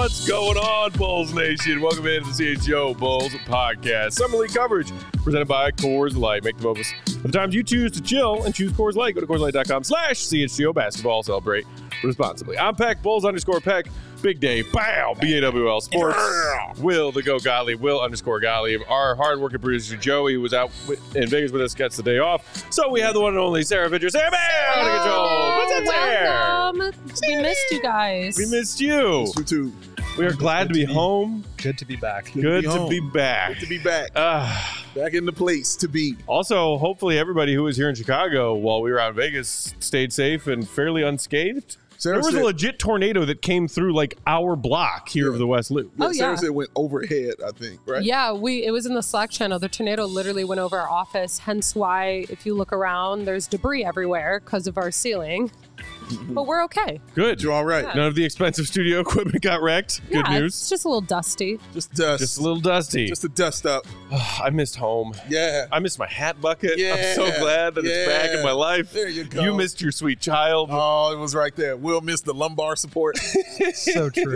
What's going on, Bulls Nation? Welcome into the CHGO Bulls podcast. Summer League coverage presented by Coors Light. Make the most of the times you choose to chill and choose Coors Light. Go to CoorsLight.com/CHGO basketball. Celebrate responsibly. I'm Peck, Bulls_Peck. Big day. Bow. BAWL Sports. Will the Go Gottlieb. Will_Gottlieb. Our hardworking producer Joey was out in Vegas with us. Gets the day off. So we have the one and only Sarah Vidger. Sarah, what's up, Sarah? We missed you guys. We missed you. You too. We are glad to be home. Good to be back. Good to be back. Good to be back. Back in the place to be. Also, hopefully everybody who was here in Chicago while we were out in Vegas stayed safe and fairly unscathed. There was a legit tornado that came through like our block here of the West Loop. Yeah, Sarah said it went overhead, I think, right? Yeah, it was in the Slack channel. The tornado literally went over our office, hence why if you look around, there's debris everywhere because of our ceiling. But we're okay. Good. You're all right. Yeah. None of the expensive studio equipment got wrecked. Good news. It's just a little dusty. Just dust. Just a little dusty. Just a dust up. I missed home. Yeah. I missed my hat bucket. Yeah. I'm so glad that it's back in my life. There you go. You missed your sweet child. Oh, it was right there. Will missed the lumbar support. So true.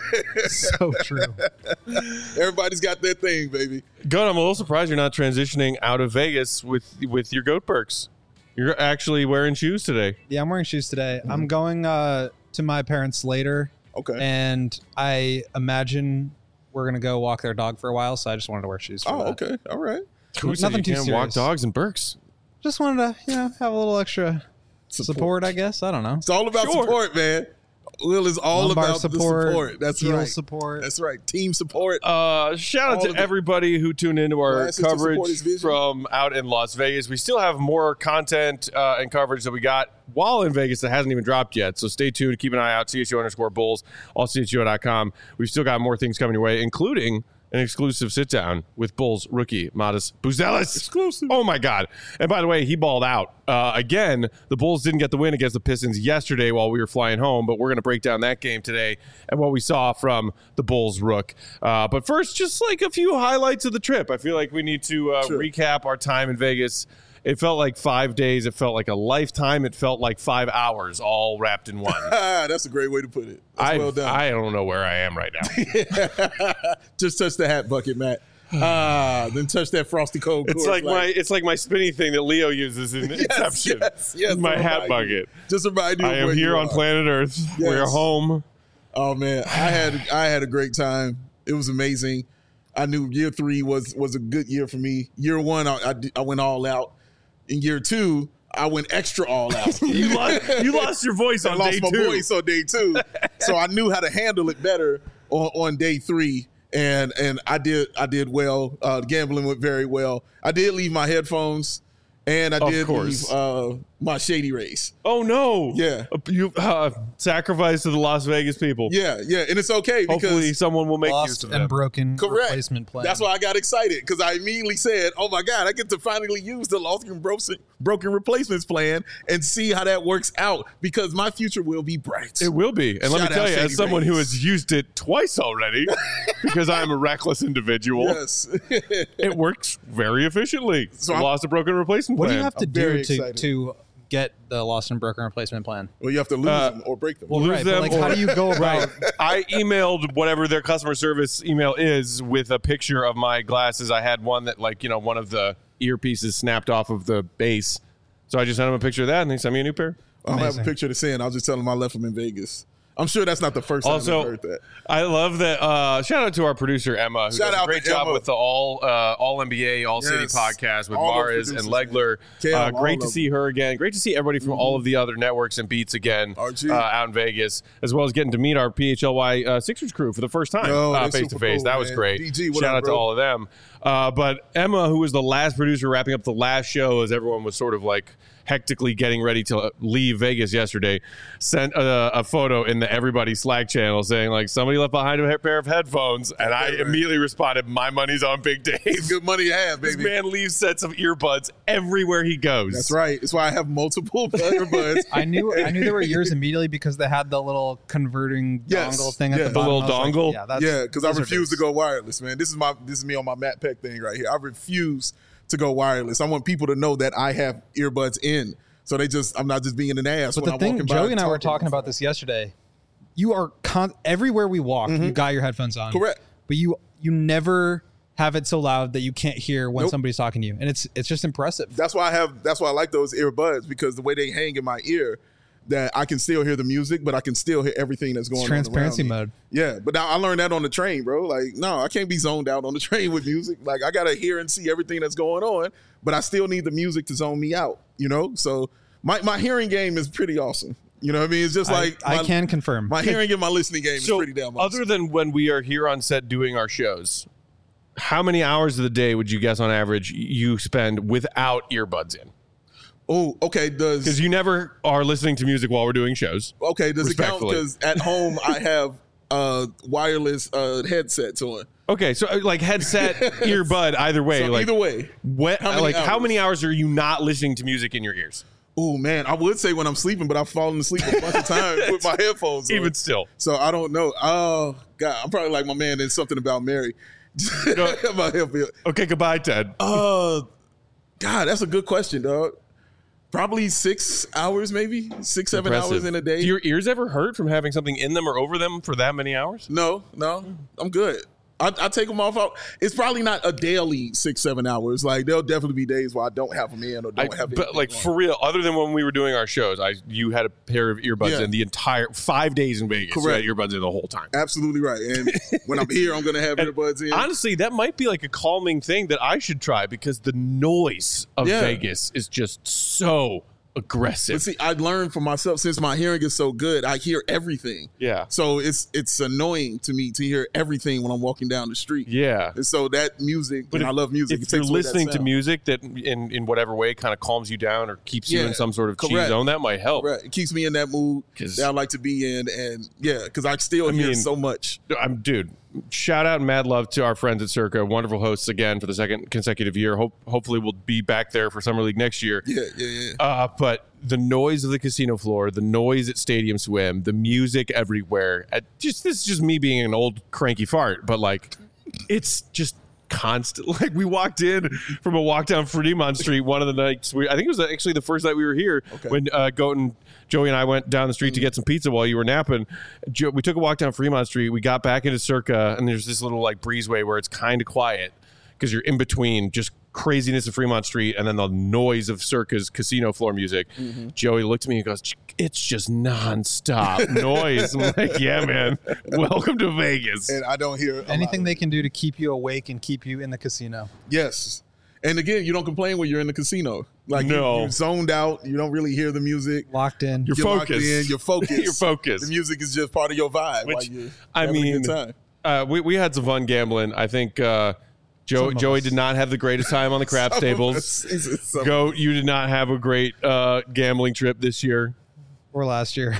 So true. Everybody's got their thing, baby. Goat, I'm a little surprised you're not transitioning out of Vegas with your Goat perks. You're actually wearing shoes today. Yeah, I'm wearing shoes today. I'm going to my parents later. Okay. And I imagine we're going to go walk their dog for a while, so I just wanted to wear shoes for that. Okay. All right. Who said Nothing you too can't serious. walk dogs in Berks? Just wanted to, have a little extra support, I guess. I don't know. It's all about support, man. Will is all Lumbar about the support. That's heel right. support. That's right. Team support. Shout out to everybody who tuned into our Glasses to support his coverage vision. from out in Las Vegas. We still have more content and coverage that we got while in Vegas that hasn't even dropped yet. So stay tuned. Keep an eye out. CHGO_Bulls, all CHGO.com. We've still got more things coming your way, including an exclusive sit-down with Bulls rookie Matas Buzelis. Exclusive. Oh, my God. And by the way, he balled out. Again, the Bulls didn't get the win against the Pistons yesterday while we were flying home, but we're going to break down that game today and what we saw from the Bulls rook. But first, just like a few highlights of the trip. I feel like we need to recap our time in Vegas. It felt like 5 days. It felt like a lifetime. It felt like 5 hours all wrapped in one. That's a great way to put it. That's well done. I don't know where I am right now. Just touch the hat bucket, Matt. Then touch that frosty cold. It's like my spinny thing that Leo uses in Inception. Yes, my hat bucket. Just remind you. I am here on planet Earth. Yes. We're home. Oh man, I had a great time. It was amazing. I knew year 3 was a good year for me. Year 1, I went all out. In year 2, I went extra all out. You lost your voice on day 2. I lost my voice on day 2. So I knew how to handle it better on day 3. And I did well. Gambling went very well. I did leave my headphones, and I did leave my Shady Rays. Oh no! Yeah, you sacrificed to the Las Vegas people. Yeah, and it's okay because hopefully someone will make use lost of and them. broken replacement plan. That's why I got excited because I immediately said, "Oh my God, I get to finally use the lost and broken replacements plan and see how that works out because my future will be bright." It will be, and let me Shout tell out you, as Shady someone who Rays. has used it twice already, because I am a reckless individual. Yes, it works very efficiently. So lost a broken replacement what plan. do you have to very do excited. to get the lost and broken replacement plan? Well, you have to lose them or break them. Well, lose right, them but like, how or- do you go about? I emailed whatever their customer service email is with a picture of my glasses. I had one that, one of the earpieces snapped off of the base. So I just sent them a picture of that, and they sent me a new pair. I don't have a picture to send. I'll just tell them I left them in Vegas. I'm sure that's not the first time I've heard that. I love that. Shout out to our producer, Emma, who Shout does a out great to job Emma. with the All NBA, All City Yes. podcast with All those Maris and producers, Legler. Cam, all Great to of see her again. Great to see everybody from all of the other networks and beats again RG. out in Vegas, as well as getting to meet our PHLY Sixers crew for the first time They're face to super face. cool, That was man. great. DG, what Shout up, out to bro? all of them. But Emma, who was the last producer wrapping up the last show as everyone was sort of like hectically getting ready to leave Vegas yesterday, sent a photo in the Everybody Slack channel saying, like, somebody left behind a pair of headphones. And I immediately responded, my money's on Big Dave. It's good money to have, baby. This man leaves sets of earbuds everywhere he goes. That's right. That's why I have multiple earbuds. I knew there were yours immediately because they had the little converting Yes. dongle thing at Yeah. the The bottom. little I was dongle? Like, Yeah, because I those are refuse to big. go wireless, man. This is me on my Matt Peck thing right here. I refuse to go wireless. I want people to know that I have earbuds in. So I'm not just being an ass But when the I'm thing, walking by. Joey and I were talking about this yesterday. you are everywhere we walk, you got your headphones on. Correct. But you never have it so loud that you can't hear when somebody's talking to you. And it's just impressive. That's why I like those earbuds, because the way they hang in my ear, that I can still hear the music, but I can still hear everything that's going on around me. Transparency mode. Yeah, but now I learned that on the train, bro. Like, no, I can't be zoned out on the train with music. Like, I got to hear and see everything that's going on, but I still need the music to zone me out, you know? So my hearing game is pretty awesome. You know what I mean? It's just like... I can confirm. My hearing and my listening game is pretty damn awesome. Other than when we are here on set doing our shows, how many hours of the day would you guess on average you spend without earbuds in? Oh, okay. Because you never are listening to music while we're doing shows. Okay, does it count? Because at home I have wireless headsets on. Okay, so like headset, earbud, either way. So like, either way. How many hours are you not listening to music in your ears? Oh, man. I would say when I'm sleeping, but I've fallen asleep a bunch of times with my headphones on. Even still. So I don't know. Oh, God. I'm probably like my man in Something About Mary. Okay, goodbye, Ted. God, that's a good question, dog. Probably 6 hours, maybe 6, 7 hours in a day. Do your ears ever hurt from having something in them or over them for that many hours? No, I'm good. I take them off. It's probably not a daily 6, 7 hours. Like, there'll definitely be days where I don't have them in or don't have them. But like for real, other than when we were doing our shows, you had a pair of earbuds in the entire 5 days in Vegas. Correct. You had earbuds in the whole time. Absolutely right. And when I'm here, I'm going to have earbuds in. Honestly, that might be like a calming thing that I should try, because the noise of Vegas is just so aggressive. But see, I learned for myself, since my hearing is so good, I hear everything. Yeah. So it's annoying to me to hear everything when I'm walking down the street. Yeah. And so that music, and I love music. If you're listening to music that in whatever way kind of calms you down or keeps you in some sort of chill zone, that might help. Right. It keeps me in that mood that I like to be in. And because I still hear so much. Dude, shout out and mad love to our friends at Circa, wonderful hosts again for the second consecutive year. Hopefully we'll be back there for Summer League next year. Yeah. But the noise of the casino floor, the noise at Stadium Swim, the music everywhere. This is just me being an old cranky fart, but like it's just constant. Like, we walked in from a walk down Fremont Street one of the nights. I think it was actually the first night we were here when Joey and I went down the street to get some pizza while you were napping. We took a walk down Fremont Street. We got back into Circa, and there's this little like breezeway where it's kind of quiet because you're in between just craziness of Fremont Street and then the noise of Circa's casino floor music. Joey looked at me and goes, "It's just nonstop noise." I'm like, "Yeah, man. Welcome to Vegas." And I don't hear anything they can do to keep you awake and keep you in the casino. Yes. And again, you don't complain when you're in the casino. Like, you're zoned out. You don't really hear the music. Locked in. You're focused. Locked in. You're focused. You're focused. The music is just part of your vibe. Which, you're I mean, a good time. We had some fun gambling. I think Joey did not have the greatest time on the craps tables. Goat, you did not have a great gambling trip this year. Or last year.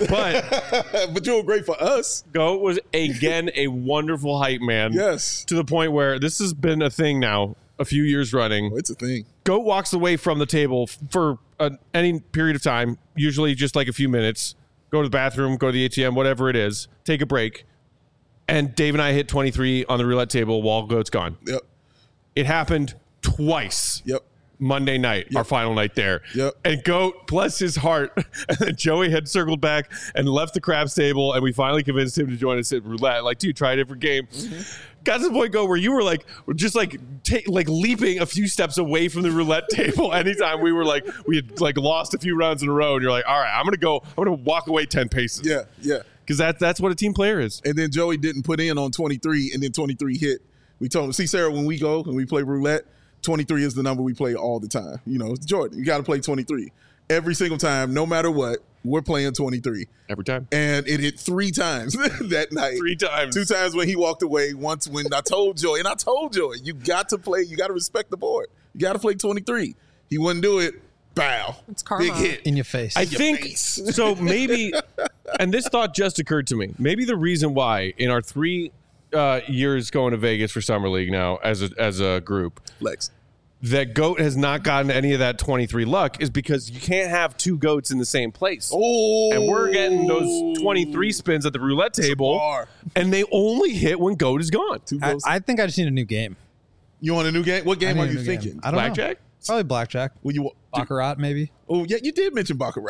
But you were great for us. Goat was, again, a wonderful hype man. Yes. To the point where this has been a thing now, a few years running. Oh, it's a thing. Goat walks away from the table for any period of time, usually just like a few minutes, go to the bathroom, go to the ATM, whatever it is, take a break. And Dave and I hit 23 on the roulette table while Goat's gone. Yep. It happened twice. Yep. Monday night, our final night there. Yep. And Goat, bless his heart, and then Joey had circled back and left the craps table, and we finally convinced him to join us at roulette. Like, dude, try a different game. Got to the point, Goat, where you were like, just like leaping a few steps away from the roulette table anytime we had like lost a few rounds in a row, and you're like, all right, I'm gonna walk away 10 paces. Yeah. Because that's what a team player is. And then Joey didn't put in on 23, and then 23 hit. We told him, see, Sarah, when we go and we play roulette, 23 is the number we play all the time. You know, it's Jordan. You got to play 23 every single time, no matter what. We're playing 23 every time, and it hit 3 times that night. 3 times. 2 times when he walked away. Once when I told Joey, you got to play. You got to respect the board. You got to play 23. He wouldn't do it. Bow. It's karma. Big hit in your face. I think so. Maybe, and this thought just occurred to me. Maybe the reason why in our 3 years going to Vegas for Summer League now as a group, Lex, that Goat has not gotten any of that 23 luck is because you can't have 2 goats in the same place. Oh, and we're getting those 23 spins at the roulette table, and they only hit when Goat is gone. I think I just need a new game. You want a new game? What game are you thinking? I don't Blackjack? know. Probably blackjack. Well, Baccarat, maybe. Oh, yeah, you did mention Baccarat.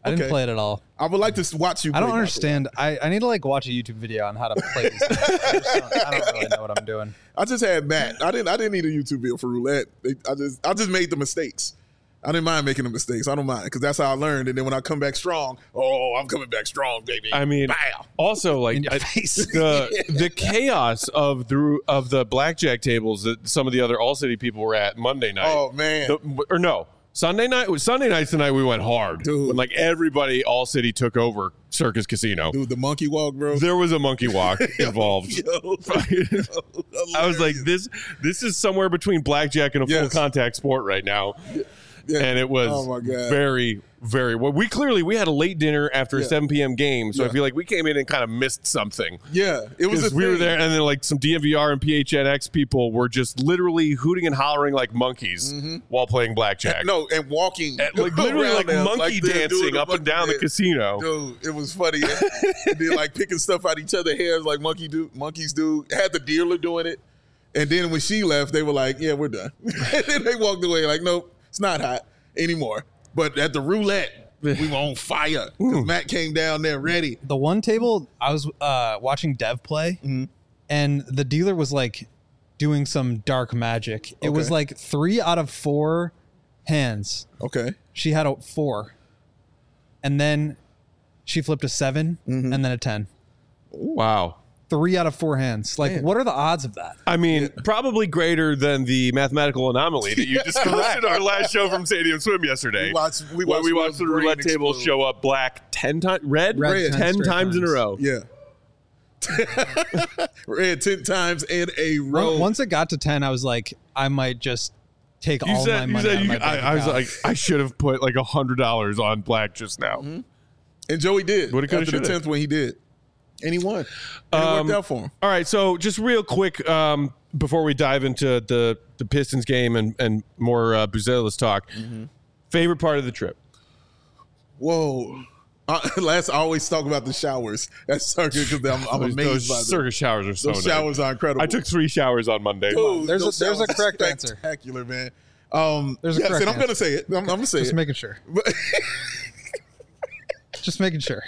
I didn't Okay. play it at all. I would like to watch you. I don't play understand. I need to like watch a YouTube video on how to play these games. I don't really know what I'm doing. I just had Matt. I didn't need a YouTube video for roulette. I just made the mistakes. I didn't mind making the mistakes. I don't mind because that's how I learned. And then when I come back strong, I'm coming back strong, baby. I mean, Bow. also like In your face. the chaos of the blackjack tables that some of the other All City people were at Monday night. Oh man. Or no, Sunday night. Sunday nights tonight we went hard. Dude. When like everybody, All City took over Circus Casino. Dude, the monkey walk, bro. There was a monkey walk involved. Yo, I was like, this is somewhere between blackjack and a full Yes. contact sport right now. Yeah. And it was Oh, my God. very, very well. We had a late dinner after a Yeah. 7 p.m. game, so I Yeah. feel like we came in and kind of missed something. Yeah, it was. Because we were there, and then like some DMVR and PHNX people were just literally hooting and hollering like monkeys while playing blackjack. No, and walking, And, like literally around like them, monkey they're doing dancing up and monkey down the dance. casino. Dude, it was funny. And then like picking stuff out each other's hairs like monkeys do. Had the dealer doing it. And then when she left, they were like, yeah, we're done. And then they walked away like, nope, it's not hot anymore. But at the roulette, we were on fire. Because Matt came down there ready. The one table I was watching Dev play, and the dealer was like doing some dark magic. It was Okay. like 3 out of 4 hands. Okay. She had a 4, and then she flipped a 7 and then a 10. Wow. 3 out of 4 hands. Like, what are the odds of that? I mean, probably greater than the mathematical anomaly that you discussed in our last show from Stadium Swim yesterday. We watched when we watched Will's the brain roulette table explode. show up black 10 times, red Red 10 straight times in a times. row. Yeah. Red 10 times in a row. Once it got to 10, I was like, I might just take all my money out of my bank I was account. like, I should have put like $100 on black just now. And Joey did. Woulda, coulda, After the shoulda. 10th one, he did. And he won. And it worked out for him. All right, so just real quick before we dive into the Pistons game and more Buzelis talk, favorite part of the trip? Whoa. I always talk about the showers at Circuit because I'm Those amazed by them. circus showers are so Those nice. showers are incredible. I took 3 showers on Monday. Dude, There's a- those there's a showers correct are answer. Spectacular, man. There's a yes, correct and I'm going to say it. I'm going to say Just it. making sure. But- Just making sure.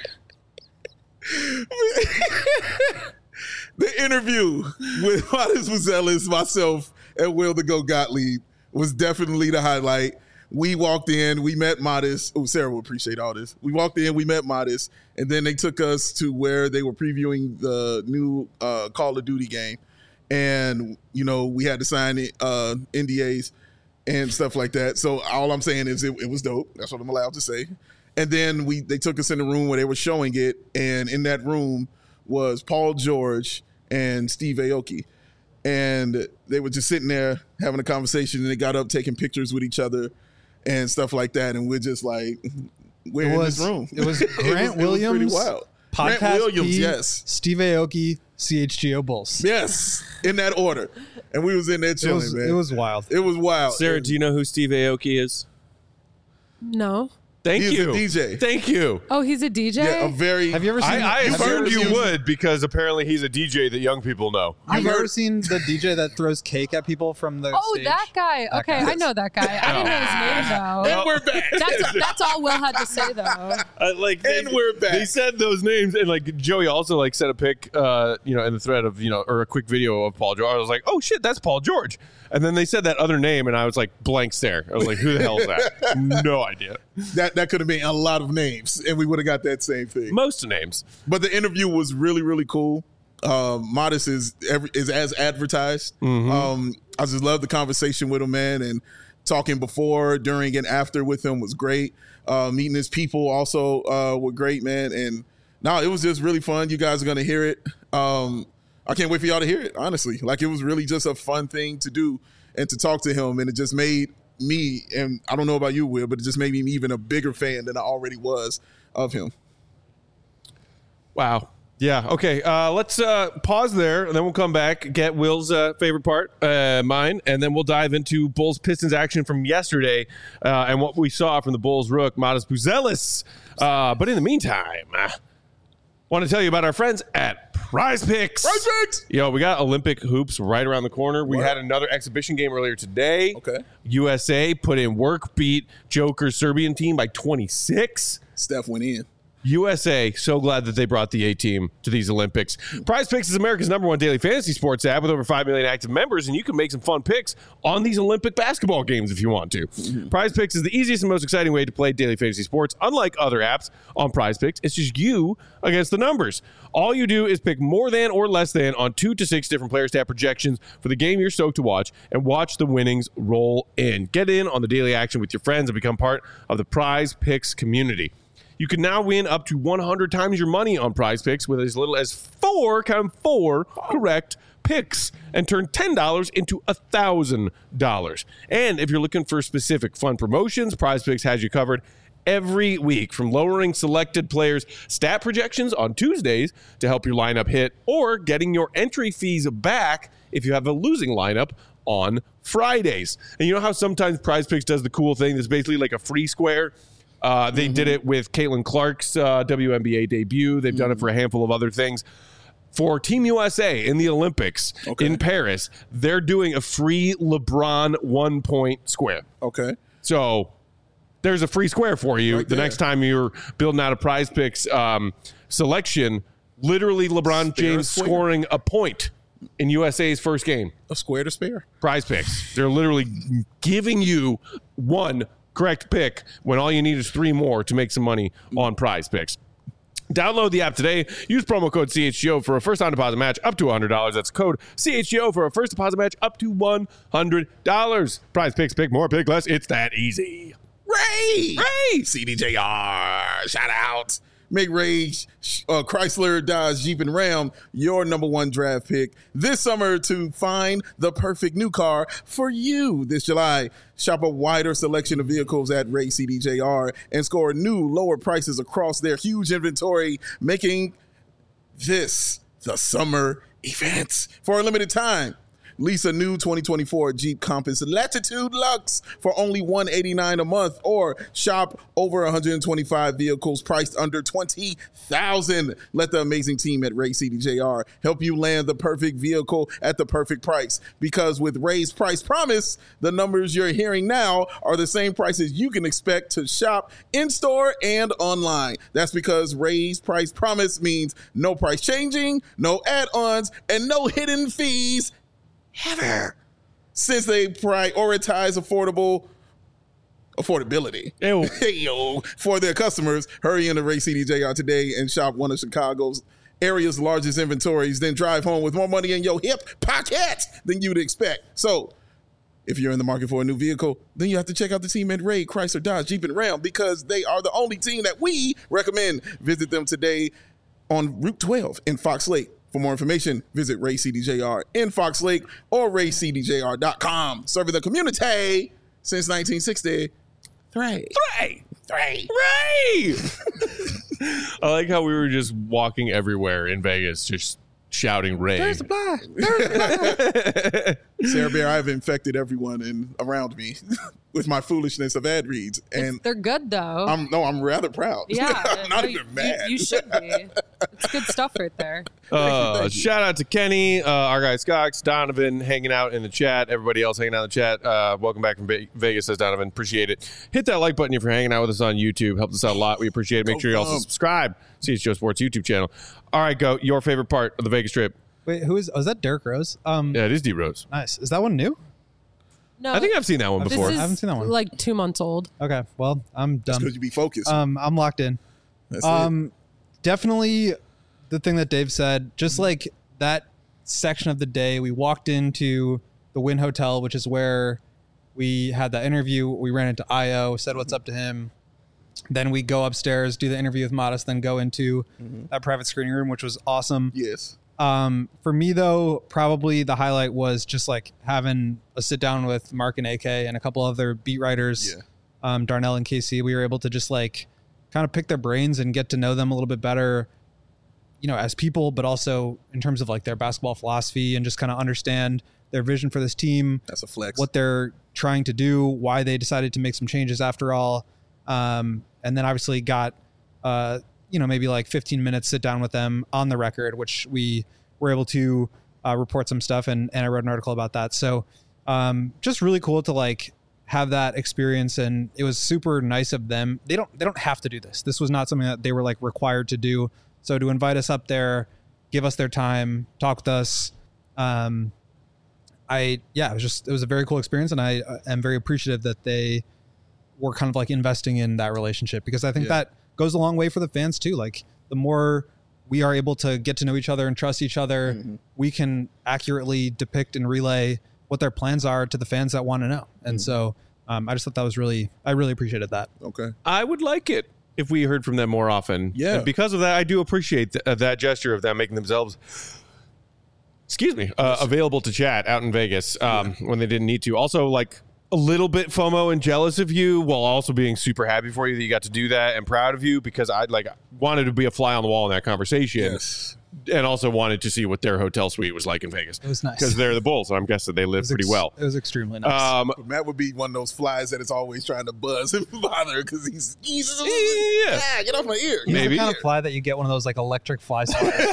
The interview with Modest Buzelis, myself, and Will the Go Gottlieb was definitely the highlight. We walked in, we met Modest. Oh, Sarah will appreciate all this. We walked in, we met Modest, and then they took us to where they were previewing the new Call of Duty game. And, you know, we had to sign NDAs and stuff like that. So all I'm saying is it was dope. That's what I'm allowed to say. And then they took us in the room where they were showing it, and in that room was Paul George and Steve Aoki. And they were just sitting there having a conversation, and they got up taking pictures with each other and stuff like that. And we're just like, we're in this room. It was Grant It was Williams, pretty wild. Podcast Grant Williams, P, yes. Steve Aoki, CHGO Bulls. Yes, in that order. And we was in there chilling, man. It was wild. It was wild. Sarah, do you know who Steve Aoki is? No. Thank He's you. a DJ. Thank you. Oh, he's a DJ? Yeah, a very. Have you ever seen? I have you assumed ever you seen- would because apparently he's a DJ that young people know. Have you heard- ever seen the DJ that throws cake at people from the Oh, stage? that guy. That Okay, guy. I know that guy. I didn't know his name, though. And we're back. That's all Will had to say, though. And we're back. They said those names, and like Joey also like sent a pic, in the thread of or a quick video of Paul George. I was like, oh shit, that's Paul George. And then they said that other name, and I was like, blank stare. I was like, who the hell is that? No idea. That could have been a lot of names, and we would have got that same thing. Most names. But the interview was really, really cool. Modest is as advertised. I just love the conversation with him, man, and talking before, during, and after with him was great. Meeting his people also were great, man. And no, it was just really fun. You guys are gonna hear it. I can't wait for y'all to hear it. Honestly, like it was really just a fun thing to do and to talk to him, and it just made me, and I don't know about you, Will, but it just made me even a bigger fan than I already was of him. Wow. Yeah. Okay. Let's pause there, and then we'll come back, get Will's favorite part, mine, and then we'll dive into Bulls Pistons action from yesterday and what we saw from the Bulls rook, Modest Buzelis. But in the meantime, want to tell you about our friends at Prize Picks. Prize Picks! Yo, we got Olympic hoops right around the corner. We What? had another exhibition game earlier today. Okay. USA put in work, beat Joker's Serbian team by 26. Steph went in. USA, so glad that they brought the A-team to these Olympics. Prize Picks is America's #1 daily fantasy sports app with over 5 million active members, and you can make some fun picks on these Olympic basketball games if you want to. Prize Picks is the easiest and most exciting way to play daily fantasy sports. Unlike other apps on Prize Picks, it's just you against the numbers. All you do is pick more than or less than on 2 to 6 different player stat projections for the game you're stoked to watch, and watch the winnings roll in. Get in on the daily action with your friends and become part of the Prize Picks community. You can now win up to 100 times your money on Prize Picks with as little as 4 correct picks and turn $10 into $1,000. And if you're looking for specific fun promotions, Prize Picks has you covered every week, from lowering selected players' stat projections on Tuesdays to help your lineup hit, or getting your entry fees back if you have a losing lineup on Fridays. And you know how sometimes Prize Picks does the cool thing that's basically like a free square? They did it with Caitlin Clark's WNBA debut. They've done it for a handful of other things. For Team USA in the Olympics in Paris, they're doing a free LeBron 1-point square. Okay. So there's a free square for you the next time you're building out a Prize Picks selection. Literally LeBron James scoring a point in USA's first game. A square to spare. Prize Picks. They're literally giving you one correct pick when all you need is 3 more to make some money on Prize Picks. Download the app today. Use promo code CHGO for a first-time deposit match up to $100. That's code CHGO for a first deposit match up to $100. Prize Picks, pick more, pick less. It's that easy. Ray! CDJR. Shout out. Make Ray Chrysler, Dodge, Jeep, and Ram your #1 draft pick this summer to find the perfect new car for you this July. Shop a wider selection of vehicles at Ray CDJR and score new lower prices across their huge inventory, making this the summer event. For a limited time, lease a new 2024 Jeep Compass Latitude Luxe for only $189 a month, or shop over 125 vehicles priced under $20,000. Let the amazing team at Ray CDJR help you land the perfect vehicle at the perfect price. Because with Ray's Price Promise, the numbers you're hearing now are the same prices you can expect to shop in-store and online. That's because Ray's Price Promise means no price changing, no add-ons, and no hidden fees ever, since they prioritize affordability for their customers. Hurry into Ray CDJR today and shop one of Chicago's area's largest inventories, then drive home with more money in your hip pocket than you'd expect. So if you're in the market for a new vehicle, then you have to check out the team at Ray Chrysler, Dodge, Jeep, and Ram, because they are the only team that we recommend. Visit them today on Route 12 in Fox Lake. For more information, visit Ray CDJR in Fox Lake or raycdjr.com. Serving the community since 1963. Ray! I like how we were just walking everywhere in Vegas, just shouting Ray. There's a fly. Sarah Bear, I've infected everyone around me with my foolishness of ad reads, and they're good though. I'm rather proud. Yeah, I'm not even mad. You should be. It's good stuff right there. Thank you. Shout out to Kenny, our guy Scott, Donovan hanging out in the chat, everybody else hanging out in the chat. Welcome back from Vegas, says Donovan. Appreciate it. Hit that like button if you're hanging out with us on YouTube. Helps us out a lot. We appreciate it. Make sure you also subscribe to CHGO Sports YouTube channel. All right, go. Your favorite part of the Vegas trip. Wait, is that Derrick Rose? Yeah, it is D Rose. Nice. Is that one new? No, I think I've seen that one before. This is I haven't seen that one. like 2 months old. Okay, well, I'm done. Because you be focused. I'm locked in. That's it. Definitely the thing that Dave said, just like that section of the day, we walked into the Wynn Hotel, which is where we had that interview. We ran into Io, said what's up to him. Then we go upstairs, do the interview with Modest, then go into that private screening room, which was awesome. Yes. For me, though, probably the highlight was just like having a sit down with Mark and AK and a couple other beat writers, Darnell and Casey. We were able to just like kind of pick their brains and get to know them a little bit better, you know, as people, but also in terms of like their basketball philosophy, and just kind of understand their vision for this team. That's a flex. What they're trying to do, why they decided to make some changes after all. And then obviously got, maybe like 15 minutes sit down with them on the record, which we were able to report some stuff. And I wrote an article about that. So just really cool to like have that experience, and it was super nice of them. They don't have to do this. This was not something that they were like required to do. So to invite us up there, give us their time, talk with us. It was a very cool experience, and I am very appreciative that they were kind of like investing in that relationship, because I think that goes a long way for the fans too. Like the more we are able to get to know each other and trust each other, we can accurately depict and relay what their plans are to the fans that want to know. And so I just thought that was I really appreciated that. Okay. I would like it if we heard from them more often. Yeah. And because of that, I do appreciate that gesture of them making themselves, available to chat out in Vegas when they didn't need to. Also, like, a little bit FOMO and jealous of you, while also being super happy for you that you got to do that, and proud of you, because I wanted to be a fly on the wall in that conversation. Yes. And also wanted to see what their hotel suite was like in Vegas. It was nice. Because they're the Bulls, and I'm guessing they live pretty well. It was extremely nice. But Matt would be one of those flies that is always trying to buzz and bother because he's get off my ear. He's maybe. the kind of fly that you get one of those like electric fly swatters.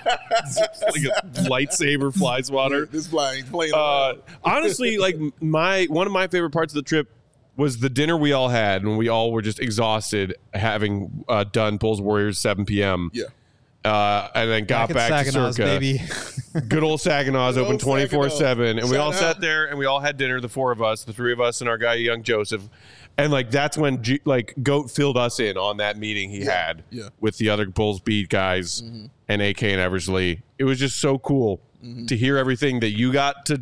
Like a lightsaber fly swatter. This fly ain't playing. Honestly, like one of my favorite parts of the trip was the dinner we all had when we all were just exhausted, having done Bulls Warriors 7 p.m. Yeah. And then got back to Circa. Baby. Good old Saginaw's Good open old 24/7, and we all Shout sat out. there and we all had dinner. The four of us, the three of us, and our guy Young Joseph, and like that's when Goat filled us in on that meeting he had with the other Bulls beat guys and AK and Eversley. It was just so cool to hear everything that you got to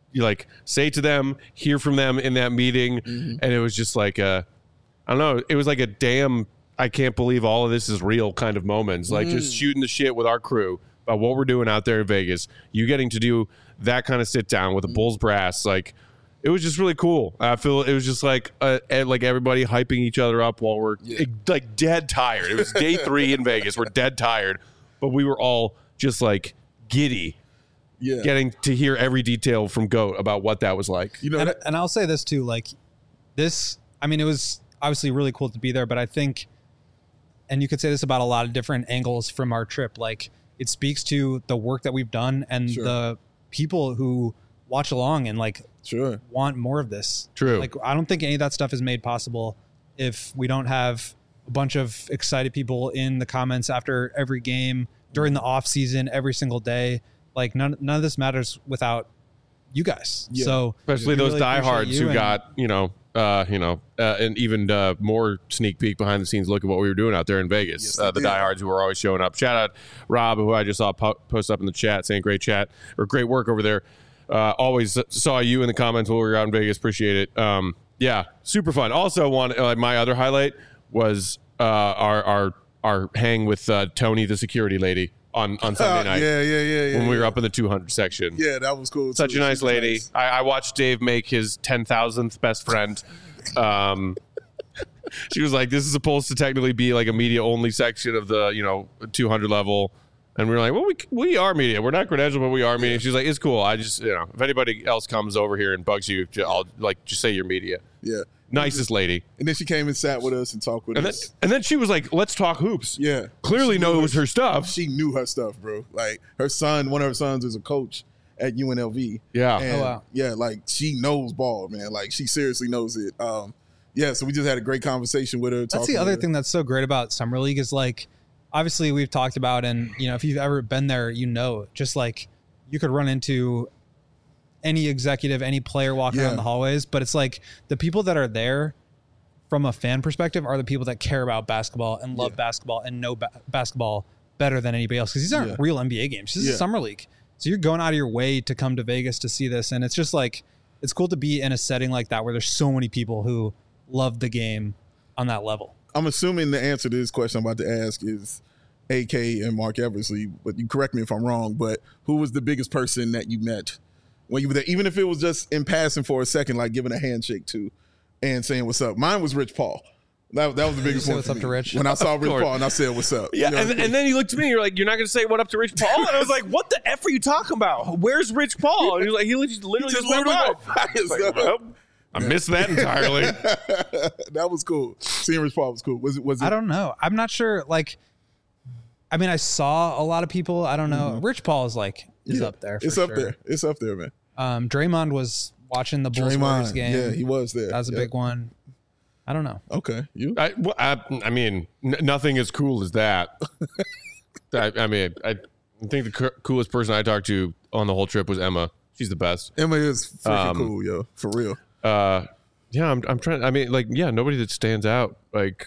say to them, hear from them in that meeting, and it was just like I don't know. It was like a damn. I can't believe all of this is real kind of moments. Like just shooting the shit with our crew about what we're doing out there in Vegas. You getting to do that kind of sit down with the Bulls brass. Like it was just really cool. I feel it was just like everybody hyping each other up while we're like dead tired. It was day 3 in Vegas. We're dead tired, but we were all just like giddy. Yeah. Getting to hear every detail from Goat about what that was like. You know, And I'll say this too, like this, I mean, it was obviously really cool to be there, but I think, and you could say this about a lot of different angles from our trip, like it speaks to the work that we've done and the people who watch along and like want more of this. True. Like I don't think any of that stuff is made possible if we don't have a bunch of excited people in the comments after every game, during the off season, every single day. Like none of this matters without you guys. Yeah. So especially we those really diehards appreciate you who got an even more sneak peek behind the scenes look at what we were doing out there in Vegas. Yes, The did. diehards who were always showing up. Shout out Rob, who I just saw post up in the chat saying great chat or great work over there. Always saw you in the comments while we were out in Vegas. Appreciate it. Yeah, super fun. Also, my other highlight was our hang with Tony, the security lady, on Sunday night. Yeah. When we were up in the 200 section. Yeah, that was cool. Such too. a nice She was lady. nice. I watched Dave make his 10,000th best friend. She was like, "This is supposed to technically be like a media only section of the 200 level," and we were like, "Well, we are media. We're not credentialed, but we are media." She's like, "It's cool. I just if anybody else comes over here and bugs you, I'll just say you're media." Yeah. Nicest lady. And then she came and sat with us and talked with us. And then she was like, "Let's talk hoops." Yeah. Clearly, She know knew it was her stuff. She knew her stuff, bro. Like her son, one of her sons is a coach at UNLV. Yeah. And Oh, wow. yeah, like she knows ball, man. Like she seriously knows it. Yeah, so we just had a great conversation with her. That's the other thing that's so great about Summer League is like, obviously we've talked about, and if you've ever been there, just like you could run into any executive, any player walking around the hallways, but it's like the people that are there from a fan perspective are the people that care about basketball and love basketball and know basketball better than anybody else. Cause these aren't real NBA games. This is Summer League. So you're going out of your way to come to Vegas to see this. And it's just like, it's cool to be in a setting like that where there's so many people who love the game on that level. I'm assuming the answer to this question I'm about to ask is AK and Mark Eversley, but you correct me if I'm wrong, but who was the biggest person that you met when you were there, even if it was just in passing for a second, like giving a handshake to and saying what's up? Mine was Rich Paul. That was the biggest say one. what's for up me. to Rich? When I saw Rich course. Paul and I said what's up. Yeah, You know? and then he looked at me. You're like, "You're not going to say what up to Rich Paul?" And I was like, "What the f are you talking about? Where's Rich Paul?" And he was like, "He literally just went by." Like, well, I missed that entirely. That was cool. Seeing Rich Paul was cool. Was it? I don't know. I'm not sure. Like, I mean, I saw a lot of people. I don't know. Rich Paul is up there. For It's up sure. there. It's up there, man. Draymond was watching the Bulls Warriors game. Yeah, he was there. That was a big one. I don't know. Okay, you? I mean, nothing as cool as that. I mean, I think the coolest person I talked to on the whole trip was Emma. She's the best. Emma is freaking cool, yo, for real. Yeah, I'm trying. I mean, like, yeah, nobody that stands out. Like,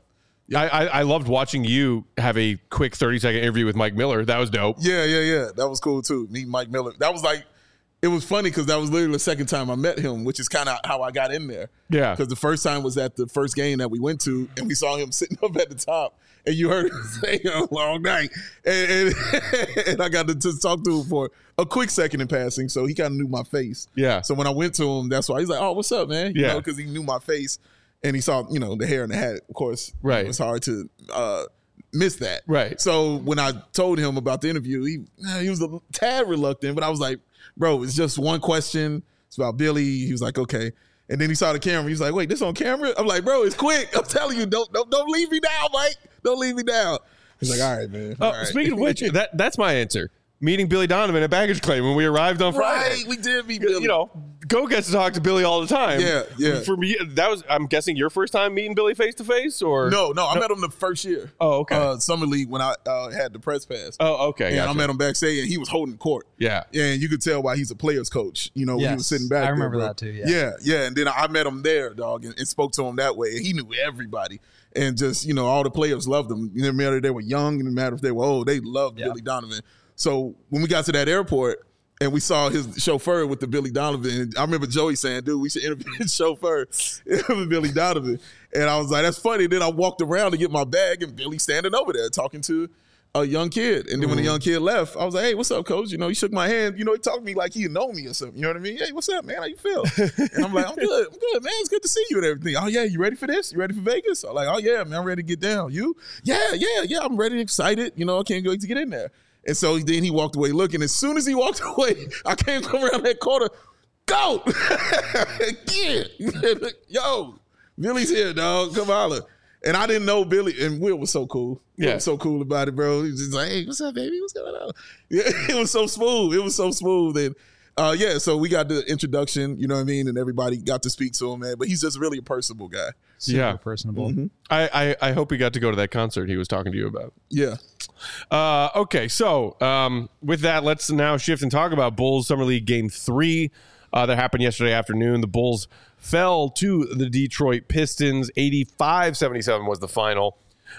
I loved watching you have a quick 30-second interview with Mike Miller. That was dope. Yeah. That was cool too. Meeting Mike Miller. That was like, it was funny because that was literally the second time I met him, which is kind of how I got in there. Yeah. Because the first time was at the first game that we went to, and we saw him sitting up at the top, and you heard him say a long night, and I got to just talk to him for a quick second in passing, so he kind of knew my face. Yeah. So when I went to him, that's why he's like, "Oh, what's up, man?" You know, because he knew my face, and he saw, the hair and the hat. Of course, right. It's hard to miss that. Right. So when I told him about the interview, he was a tad reluctant, but I was like, "Bro, it's just one question. It's about Billy." He was like, "Okay." And then he saw the camera. He's like, "Wait, this on camera?" I'm like, "Bro, it's quick. I'm telling you, don't leave me down, Mike. Don't leave me down." He's like, "All right, man." Oh, right. Speaking of which, that's my answer. Meeting Billy Donovan at baggage claim when we arrived on Friday. Right, we did meet Billy. Go gets to talk to Billy all the time. Yeah. For me, that was, I'm guessing, your first time meeting Billy face to face, or no, I met him the first year. Oh, okay. Summer League when I had the press pass. Oh, okay. And gotcha. I met him backstage, and he was holding court. Yeah. And you could tell why he's a player's coach. When he was sitting back. I remember there, that too. Yeah. And then I met him there, dog, and spoke to him that way. And he knew everybody, and just all the players loved him. It didn't matter if they were young, it didn't matter if they were old. They loved Billy Donovan. So when we got to that airport and we saw his chauffeur with the Billy Donovan, I remember Joey saying, "Dude, we should interview his chauffeur with Billy Donovan." And I was like, "That's funny." Then I walked around to get my bag, and Billy standing over there talking to a young kid. And then when the young kid left, I was like, "Hey, what's up, coach?" He shook my hand. He talked to me like he know me or something. You know what I mean? "Hey, what's up, man? How you feel?" And I'm like, I'm good, man. It's good to see you and everything." "Oh, yeah, you ready for this? You ready for Vegas?" I'm like, "Oh, yeah, man, I'm ready to get down." "You?" Yeah, I'm ready, excited. I can't wait to get in there. And so then he walked away looking. As soon as he walked away, I came around that corner. "Go!" Yeah. "Yo, Billy's here, dog. Come holler." And I didn't know Billy. And Will was so cool. He was so cool about it, bro. He was just like, "Hey, what's up, baby? What's going on?" Yeah, it was so smooth. And so we got the introduction, you know what I mean? And everybody got to speak to him, man. But he's just really a personable guy. Super personable. Mm-hmm. I hope he got to go to that concert he was talking to you about. Yeah. Okay, so with that, let's now shift and talk about Bulls Summer League Game 3 that happened yesterday afternoon. The Bulls fell to the Detroit Pistons. 85-77 was the final.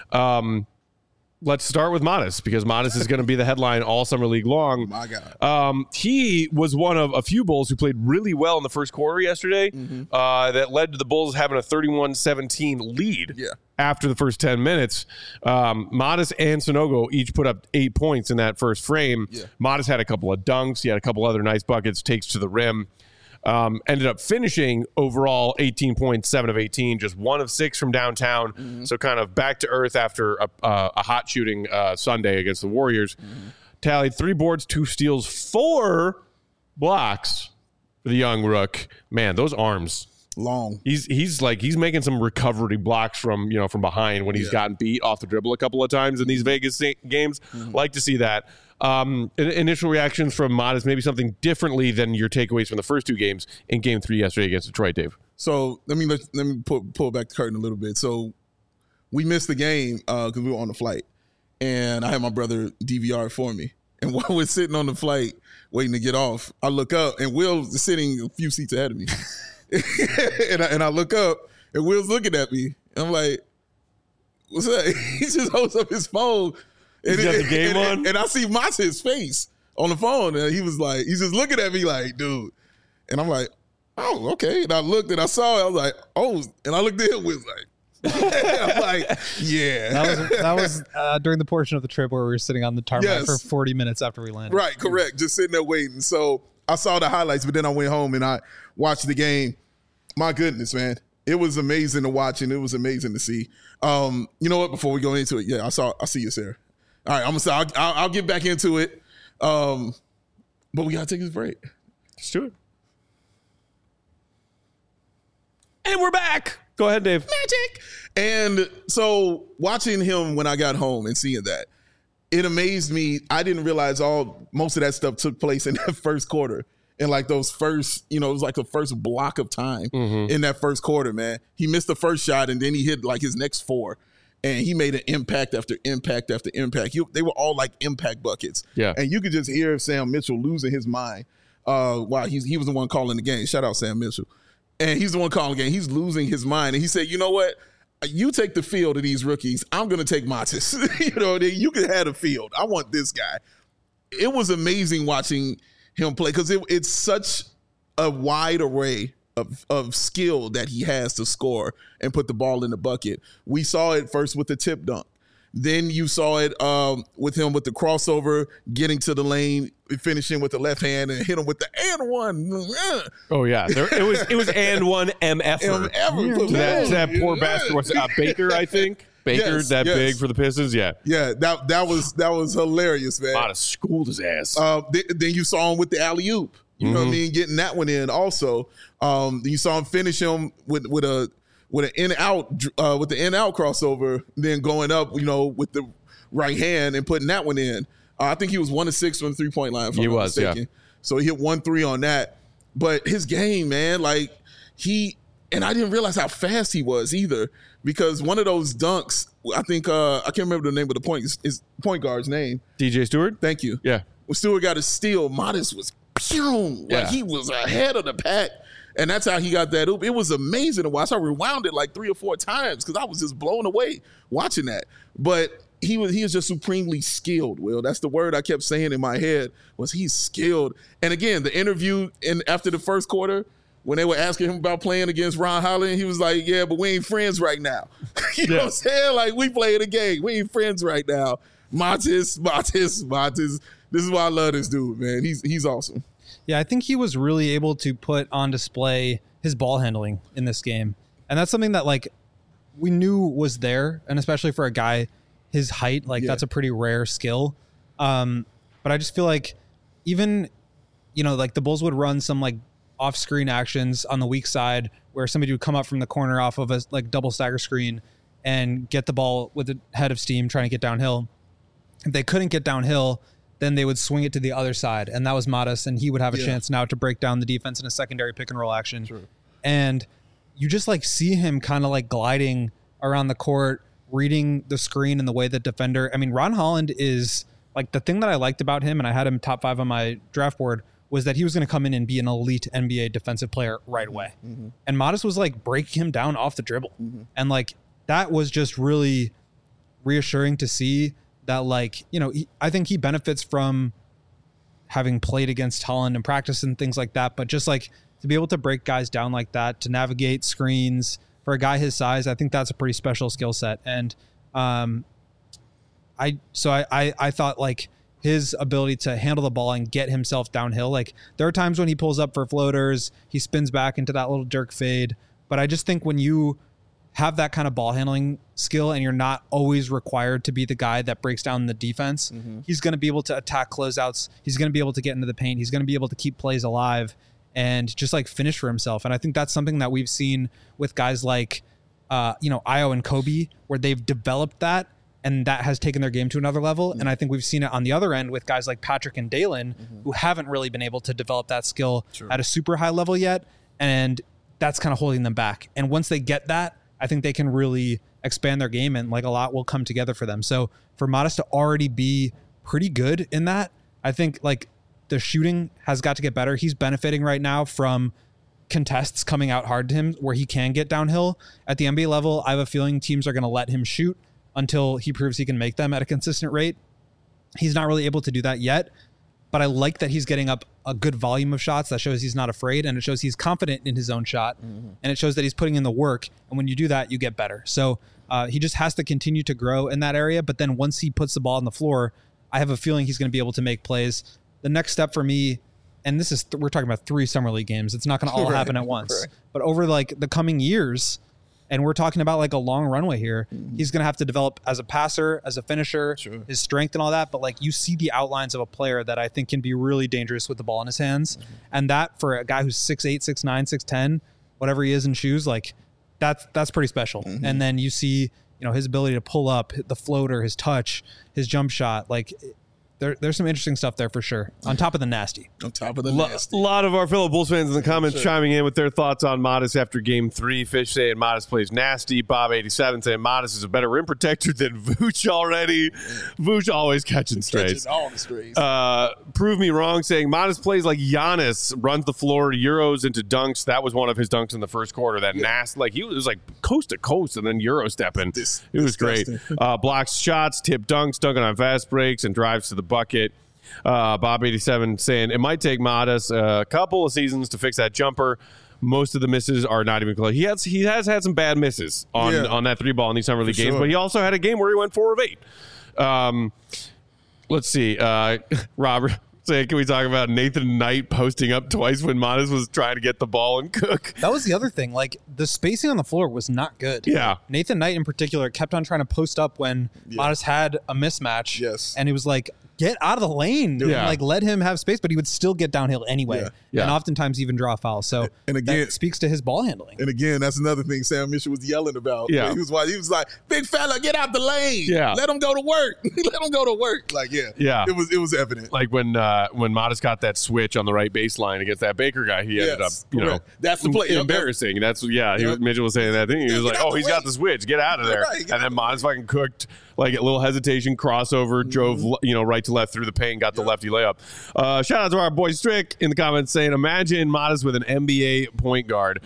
Let's start with Modest, because Modest is going to be the headline all Summer League long. My God. He was one of a few Bulls who played really well in the first quarter yesterday that led to the Bulls having a 31-17 lead after the first 10 minutes. Modest and Sanogo each put up 8 points in that first frame. Yeah. Modest had a couple of dunks. He had a couple other nice buckets, takes to the rim. Ended up finishing overall 18 points, 7 of 18, just 1 of 6 from downtown. So kind of back to earth after a hot shooting Sunday against the Warriors. Tallied 3 boards, 2 steals, 4 blocks for the young rook. Man, those arms. Long. He's making some recovery blocks from behind when he's gotten beat off the dribble a couple of times in these Vegas games. Like to see that. Initial reactions from Modest, maybe something differently than your takeaways from the first 2 games in Game 3 yesterday against Detroit, Dave. So let me pull back the curtain a little bit. So we missed the game because we were on the flight, and I had my brother DVR it for me. And while we're sitting on the flight waiting to get off, I look up, and Will's sitting a few seats ahead of me. and I look up, and Will's looking at me. And I'm like, "What's up?" He just holds up his phone. He's got the game on? And I see Moss's face on the phone. And he was like, he's just looking at me like, "Dude." And I'm like, "Oh, okay." And I looked and I saw it. I was like, "Oh." And I looked at him and was like, I'm like, yeah. That was during the portion of the trip where we were sitting on the tarmac for 40 minutes after we landed. Right, correct. Just sitting there waiting. So I saw the highlights, but then I went home and I watched the game. My goodness, man. It was amazing to watch and it was amazing to see. You know what? Before we go into it, I see you, Sarah. All right, I'm gonna say I'll get back into it. But we gotta take this break. Let's do it. And we're back. Go ahead, Dave. Magic. And so watching him when I got home and seeing that, it amazed me. I didn't realize most of that stuff took place in that first quarter in like those first, it was like the first block of time in that first quarter, man. He missed the first shot and then he hit like his next 4. And he made an impact after impact after impact. They were all like impact buckets. Yeah. And you could just hear Sam Mitchell losing his mind. Wow, he was the one calling the game. Shout out Sam Mitchell. And he's the one calling the game. He's losing his mind. And he said, you know what? You take the field of these rookies. I'm going to take Matas. You can have the field. I want this guy. It was amazing watching him play because it's such a wide array of skill that he has to score and put the ball in the bucket. We saw it first with the tip dunk. Then you saw it with him with the crossover, getting to the lane, finishing with the left hand, and hit him with the and one. Oh yeah, it was and one MF. That poor bastard was Baker, I think. Baker, yes. Big for the Pistons, yeah. Yeah, that was hilarious, man. Out of schooled his ass. Then you saw him with the alley-oop. You know what I mean? Getting that one in also. You saw him finish him with an in-out with the in-out crossover, then going up, with the right hand and putting that one in. I think he was 1 of 6 from the 3-point line, if I'm not mistaken. Yeah. So he hit 1 3 on that. But his game, man, like and I didn't realize how fast he was either, because one of those dunks, I think I can't remember the name of the point guard's name. DJ Stewart? Thank you. Yeah. When Stewart got a steal, Matas was like he was ahead of the pack. And that's how he got that oop. It was amazing to watch. I rewound it like 3 or 4 times because I was just blown away watching that. But he was just supremely skilled, Will. That's the word I kept saying in my head, was he's skilled. And again, the interview after the first quarter, when they were asking him about playing against Ron Holland, he was like, yeah, but we ain't friends right now. You know what I'm saying? Like, we playing a game. We ain't friends right now. Matas. This is why I love this dude, man. He's awesome. Yeah, I think he was really able to put on display his ball handling in this game. And that's something that, like, we knew was there, and especially for a guy his height, that's a pretty rare skill. But I just feel like even, like the Bulls would run some, like, off-screen actions on the weak side where somebody would come up from the corner off of a, like, double stagger screen and get the ball with a head of steam trying to get downhill. If they couldn't get downhill, then they would swing it to the other side, and that was Matas, and he would have a chance now to break down the defense in a secondary pick and roll action. True. And you just like see him kind of like gliding around the court, reading the screen and the way that defender. I mean, Ron Holland is like, the thing that I liked about him, and I had him top 5 on my draft board, was that he was going to come in and be an elite NBA defensive player right away. Mm-hmm. And Matas was like breaking him down off the dribble. Mm-hmm. And like, that was just really reassuring to see that, like, I think he benefits from having played against Holland and practice and things like that. But just like to be able to break guys down like that, to navigate screens for a guy his size, I think that's a pretty special skill set. And I thought like his ability to handle the ball and get himself downhill, like there are times when he pulls up for floaters, he spins back into that little jerk fade. But I just think when you have that kind of ball handling skill and you're not always required to be the guy that breaks down the defense, he's going to be able to attack closeouts. He's going to be able to get into the paint. He's going to be able to keep plays alive and just like finish for himself. And I think that's something that we've seen with guys like, Ayo and Kobe, where they've developed that, and that has taken their game to another level. And I think we've seen it on the other end with guys like Patrick and Dalen, who haven't really been able to develop that skill at a super high level yet. And that's kind of holding them back. And once they get that, I think they can really expand their game, and like a lot will come together for them. So for Matas to already be pretty good in that, I think like the shooting has got to get better. He's benefiting right now from contests coming out hard to him where he can get downhill. At the NBA level, I have a feeling teams are going to let him shoot until he proves he can make them at a consistent rate. He's not really able to do that yet, but I like that he's getting up a good volume of shots. That shows he's not afraid, and it shows he's confident in his own shot, and it shows that he's putting in the work. And when you do that, you get better. So he just has to continue to grow in that area. But then once he puts the ball on the floor, I have a feeling he's going to be able to make plays. The next step for me, and this is we're talking about 3 summer league games. It's not going to all happen at once, but over like the coming years, and we're talking about like a long runway here, he's going to have to develop as a passer, as a finisher, his strength and all that. But like you see the outlines of a player that I think can be really dangerous with the ball in his hands. And that for a guy who's 6'8", 6'9", 6'10", whatever he is in shoes, like that's pretty special. And then you see, his ability to pull up, the floater, his touch, his jump shot. Like there's some interesting stuff there for sure. On top of the nasty. On top of the A nasty. lot of our fellow Bulls fans in the comments chiming in with their thoughts on Modest after Game 3. Fish saying Modest plays nasty. Bob87 saying Modest is a better rim protector than Vooch already. Vooch always catching strays. Catching all the strays. Prove me wrong saying Modest plays like Giannis, runs the floor, Euros into dunks. That was one of his dunks in the first quarter. That nasty, like he was like coast to coast and then Euro stepping. It was great. Blocks shots, tip dunks, dunking on fast breaks, and drives to the bucket. Bob87 saying it might take Modest a couple of seasons to fix that jumper. Most of the misses are not even close. He has had some bad misses on that 3-ball in these summer league games, but he also had a game where he went 4 of 8. Let's see. Robert saying, can we talk about Nathan Knight posting up twice when Modest was trying to get the ball and cook? That was the other thing. Like, the spacing on the floor was not good. Yeah. Nathan Knight in particular kept on trying to post up when Modest had a mismatch. Yes. And he was like, get out of the lane. Dude. Yeah. Like, let him have space, but he would still get downhill anyway. Yeah. And oftentimes even draw a foul. So and again, that speaks to his ball handling. And again, that's another thing Sam Mitchell was yelling about. Yeah. He was like, big fella, get out the lane. Yeah. Let him go to work. Let him go to work. Like, Yeah. It was evident. Like when Modest got that switch on the right baseline against that Baker guy, he ended up, that's the play. Embarrassing. Mitchell was saying that thing. He was like, "Oh, he's got the switch. Get out of there!" Right, and then Modest fucking cooked like a little hesitation crossover, drove right to left through the paint, got the lefty layup. Shout out to our boy Strick in the comments saying, "Imagine Modest with an NBA point guard."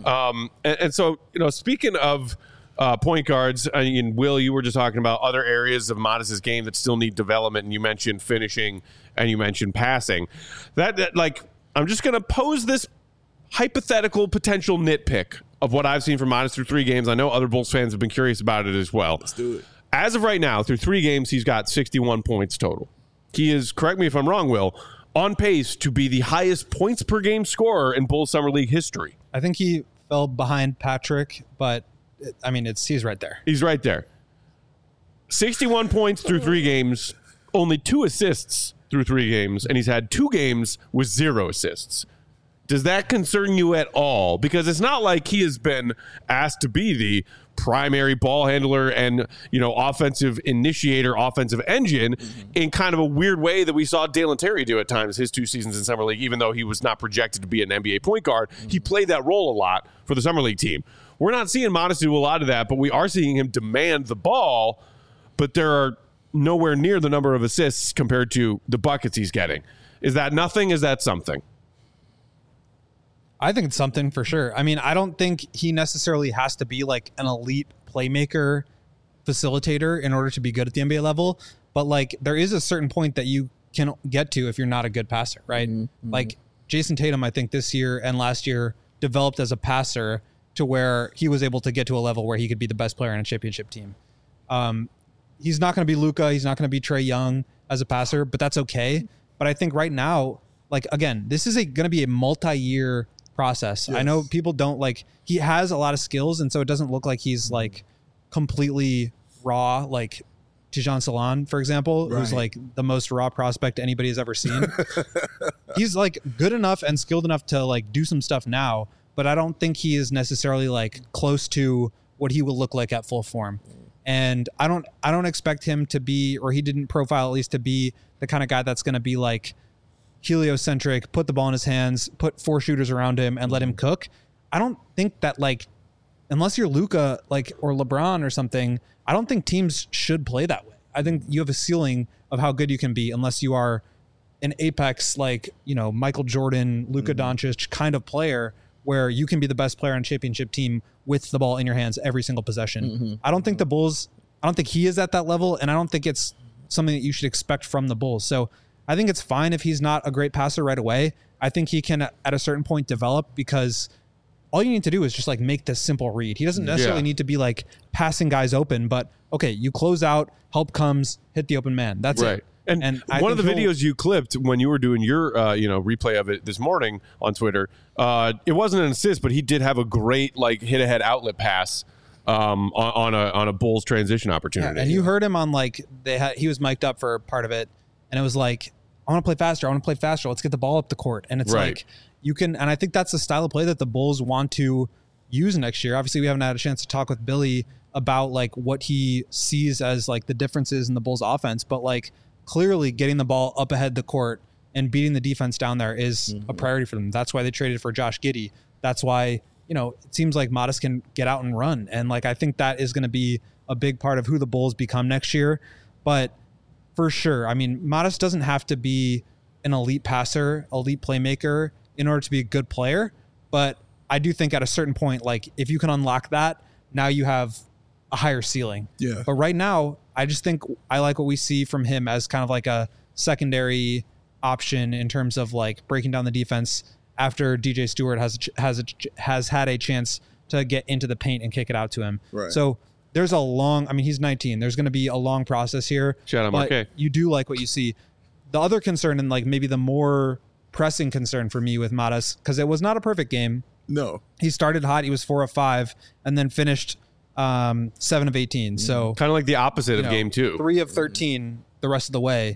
And so speaking of point guards, and Will, you were just talking about other areas of Modest's game that still need development, and you mentioned finishing and you mentioned passing. That like, I'm just going to pose this hypothetical potential nitpick of what I've seen from Modest through 3 games. I know other Bulls fans have been curious about it as well. Let's do it. As of right now, through 3 games, he's got 61 points total. He is, correct me if I'm wrong, Will, on pace to be the highest points per game scorer in Bulls Summer League history. I think he fell behind Patrick, but he's right there. He's right there. 61 points through 3 games, only 2 assists through 3 games, and he's had 2 games with 0 assists. Does that concern you at all? Because it's not like he has been asked to be the primary ball handler and, offensive initiator, offensive engine in kind of a weird way that we saw Dalen Terry do at times his 2 seasons in Summer League. Even though he was not projected to be an NBA point guard, he played that role a lot for the Summer League team. We're not seeing Modest do a lot of that, but we are seeing him demand the ball, but there are nowhere near the number of assists compared to the buckets he's getting. Is that nothing? Is that something? I think it's something for sure. I don't think he necessarily has to be like an elite playmaker facilitator in order to be good at the NBA level. But like, there is a certain point that you can get to if you're not a good passer, right? Like Jason Tatum, I think this year and last year developed as a passer to where he was able to get to a level where he could be the best player in a championship team. He's not going to be Luka. He's not going to be Trae Young as a passer, but that's okay. But I think right now, like, again, this is going to be a multi-year process. Yes. I know people don't like, he has a lot of skills, and so it doesn't look like he's like completely raw, like Tijan Salon, for example, who's like the most raw prospect anybody has ever seen. He's like good enough and skilled enough to like do some stuff now, but I don't think he is necessarily like close to what he will look like at full form. And I don't expect him to be, or he didn't profile at least to be the kind of guy that's going to be like heliocentric, put the ball in his hands, put 4 shooters around him and let him cook. I don't think that, like, unless you're Luka, like, or LeBron or something, I don't think teams should play that way. I think you have a ceiling of how good you can be unless you are an apex, like, Michael Jordan, Luka Doncic kind of player where you can be the best player on a championship team with the ball in your hands every single possession. I don't think the Bulls, I don't think he is at that level, and I don't think it's something that you should expect from the Bulls. So I think it's fine if he's not a great passer right away. I think he can, at a certain point, develop, because all you need to do is just like make this simple read. He doesn't necessarily need to be like passing guys open, but okay, you close out, help comes, hit the open man. That's it. And one of the videos you clipped when you were doing your replay of it this morning on Twitter, it wasn't an assist, but he did have a great like hit ahead outlet pass on a Bulls transition opportunity. Yeah, and you heard him on like he was mic'd up for part of it, and it was like, I want to play faster. Let's get the ball up the court. And it's like you can, and I think that's the style of play that the Bulls want to use next year. Obviously, we haven't had a chance to talk with Billy about like what he sees as like the differences in the Bulls offense, but like clearly getting the ball up ahead the court and beating the defense down there is a priority for them. That's why they traded for Josh Giddey. That's why, it seems like Modest can get out and run. And like, I think that is going to be a big part of who the Bulls become next year. But for sure, I mean, Modest doesn't have to be an elite passer, elite playmaker in order to be a good player. But I do think at a certain point, like if you can unlock that, now you have a higher ceiling. Yeah. But right now, I just think I like what we see from him as kind of like a secondary option in terms of like breaking down the defense after DJ Stewart has had a chance to get into the paint and kick it out to him. Right. So there's he's 19. There's going to be a long process here. Shout out, but Marquet. You do like what you see. The other concern, and like maybe the more pressing concern for me with Modest, because it was not a perfect game. No. He started hot. He was 4 of 5 and then finished 7 of 18. So kind of like the opposite of game 2. 3 of 13 the rest of the way.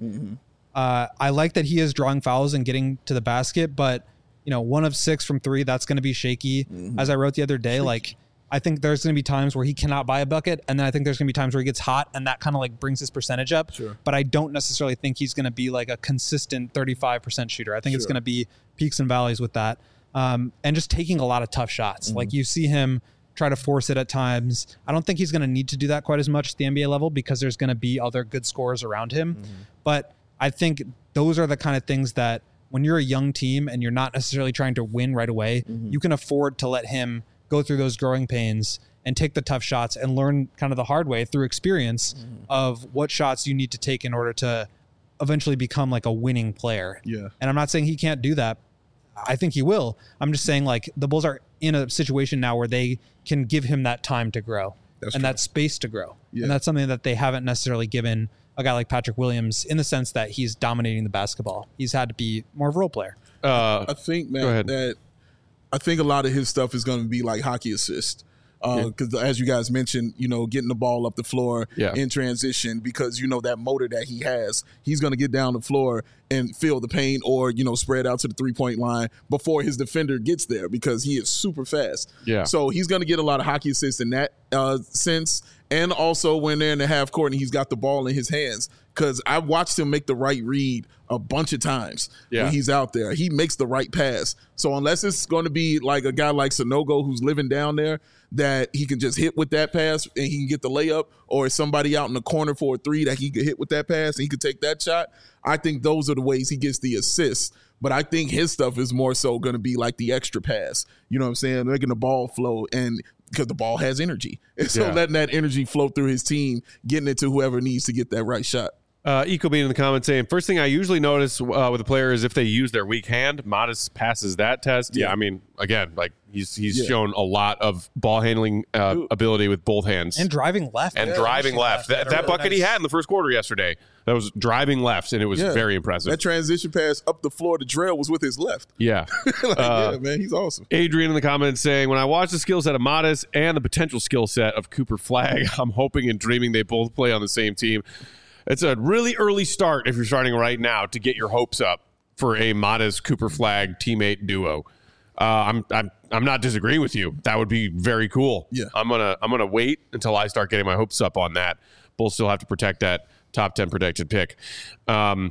I like that he is drawing fouls and getting to the basket, but 1 of 6 from 3, that's going to be shaky. As I wrote the other day, like I think there's going to be times where he cannot buy a bucket, and then I think there's going to be times where he gets hot, and that kind of like brings his percentage up. Sure. But I don't necessarily think he's going to be like a consistent 35% shooter. I think it's going to be peaks and valleys with that, and just taking a lot of tough shots. Like you see him try to force it at times. I don't think he's going to need to do that quite as much at the NBA level because there's going to be other good scorers around him. But I think those are the kind of things that when you're a young team and you're not necessarily trying to win right away, you can afford to let him go through those growing pains and take the tough shots and learn kind of the hard way through experience of what shots you need to take in order to eventually become like a winning player. Yeah. And I'm not saying he can't do that. I think he will. I'm just saying like the Bulls are in a situation now where they can give him that time to grow and that space to grow. Yeah. And that's something that they haven't necessarily given a guy like Patrick Williams in the sense that he's dominating the basketball. He's had to be more of a role player. I think, man, that I think a lot of his stuff is going to be like hockey assist. Because as you guys mentioned, getting the ball up the floor in transition, because that motor that he has, he's going to get down the floor and feel the pain or, spread out to the 3-point line before his defender gets there because he is super fast. Yeah. So he's going to get a lot of hockey assists in that sense. And also when they're in the half court and he's got the ball in his hands, because I watched him make the right read a bunch of times when he's out there. He makes the right pass. So unless it's going to be like a guy like Sanogo who's living down there that he can just hit with that pass and he can get the layup, or somebody out in the corner for a 3 that he could hit with that pass and he could take that shot, I think those are the ways he gets the assists. But I think his stuff is more so going to be like the extra pass. You know what I'm saying? Making the ball flow, and because the ball has energy. And so letting that energy flow through his team, getting it to whoever needs to get that right shot. Ecobean in the comments saying, first thing I usually notice with a player is if they use their weak hand. Modest passes that test. Yeah, I mean, again, like he's shown a lot of ball handling ability with both hands. And driving left. And driving left. That bucket he had in the first quarter yesterday, that was driving left, and it was very impressive. That transition pass up the floor to Drell was with his left. Yeah. Yeah, man, he's awesome. Adrian in the comments saying, when I watch the skill set of Modest and the potential skill set of Cooper Flagg, I'm hoping and dreaming they both play on the same team. It's a really early start if you're starting right now to get your hopes up for a Modest Cooper Flagg teammate duo. I'm not disagreeing with you. That would be very cool. Yeah. I'm gonna wait until I start getting my hopes up on that. Bulls still have to protect that top 10 protected pick. Where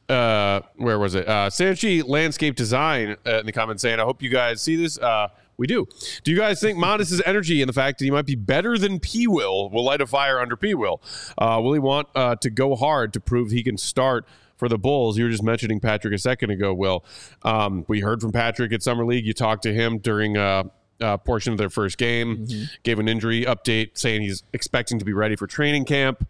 was it? Sanchi Landscape Design in the comments saying, I hope you guys see this. We do. Do you guys think Modest's energy and the fact that he might be better than P. will light a fire under P. Will? Will he want to go hard to prove he can start for the Bulls? You were just mentioning Patrick a second ago, Will. We heard from Patrick at Summer League. You talked to him during a portion of their first game, gave an injury update saying he's expecting to be ready for training camp.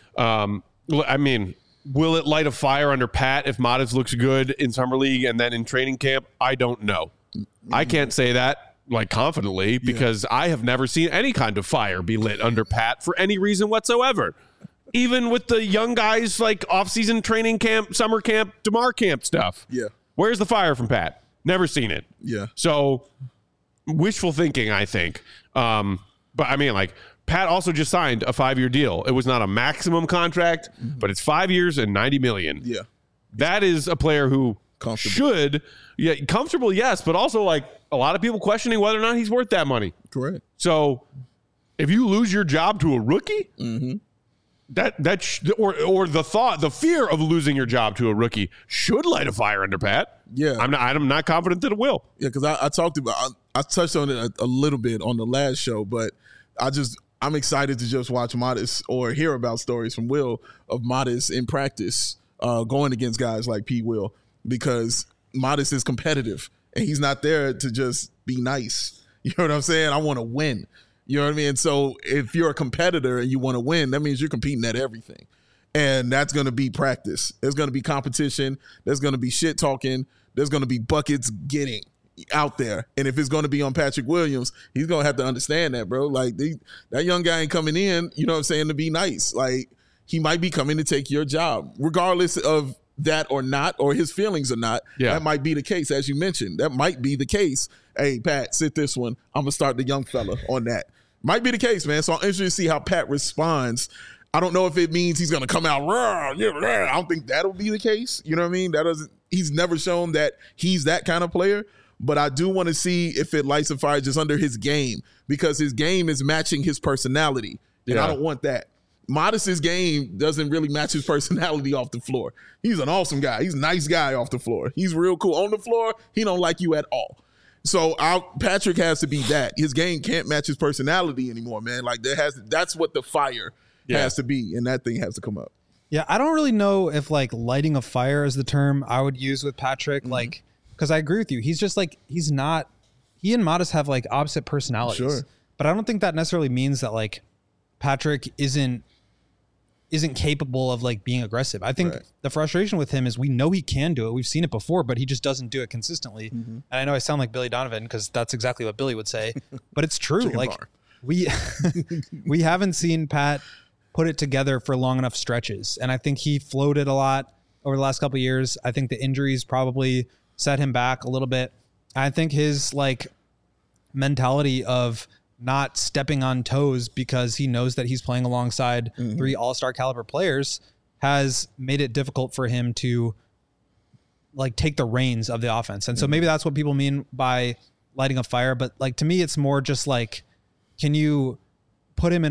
I mean, will it light a fire under Pat if Modest looks good in Summer League and then in training camp? I don't know. I can't say that like confidently because I have never seen any kind of fire be lit under Pat for any reason whatsoever. Even with the young guys like off-season training camp, summer camp, DeMar camp stuff. Yeah. Where's the fire from Pat? Never seen it. Yeah. So wishful thinking, I think. But I mean, like, Pat also just signed a 5-year deal. It was not a maximum contract, but it's 5 years and $90 million. Yeah. That is a player who should, comfortable, yes, but also like a lot of people questioning whether or not he's worth that money. Correct. So if you lose your job to a rookie, or the fear of losing your job to a rookie should light a fire under Pat. Yeah. I'm not confident that it will. Yeah, because I touched on it a little bit on the last show, but I'm excited to just watch Modest or hear about stories from Will of Modest in practice going against guys like P. Will, because Modest is competitive and he's not there to just be nice. You know what I'm saying? I want to win. You know what I mean? So if you're a competitor and you want to win, that means you're competing at everything. And that's going to be practice. There's going to be competition. There's going to be shit talking. There's going to be buckets getting out there. And if it's going to be on Patrick Williams, he's going to have to understand that, bro. Like, that young guy ain't coming in, you know what I'm saying, to be nice. Like, he might be coming to take your job, regardless of that or not, or his feelings or not. Yeah. That might be the case, as you mentioned. That might be the case. Hey, Pat, sit this one. I'm going to start the young fella on that. Might be the case, man. So I'm interested to see how Pat responds. I don't know if it means he's going to come out. I don't think that'll be the case. You know what I mean? He's never shown that he's that kind of player. But I do want to see if it lights a fire just under his game, because his game is matching his personality. And I don't want that. Modest's game doesn't really match his personality off the floor. He's an awesome guy. He's a nice guy off the floor. He's real cool. On the floor, he don't like you at all. So Patrick has to be that. His game can't match his personality anymore, man. Like that's what the fire has to be, and that thing has to come up. Yeah, I don't really know if like lighting a fire is the term I would use with Patrick. Mm-hmm. Like, because I agree with you. He's just like, he and Modest have like opposite personalities. Sure. But I don't think that necessarily means that like Patrick isn't capable of like being aggressive. I think the frustration with him is we know he can do it. We've seen it before, but he just doesn't do it consistently. Mm-hmm. And I know I sound like Billy Donovan because that's exactly what Billy would say, but it's true. Like we haven't seen Pat put it together for long enough stretches. And I think he floated a lot over the last couple of years. I think the injuries probably set him back a little bit. I think his like mentality of not stepping on toes because he knows that he's playing alongside three all-star caliber players has made it difficult for him to like take the reins of the offense. And so maybe that's what people mean by lighting a fire. But like, to me, it's more just like, can you put him in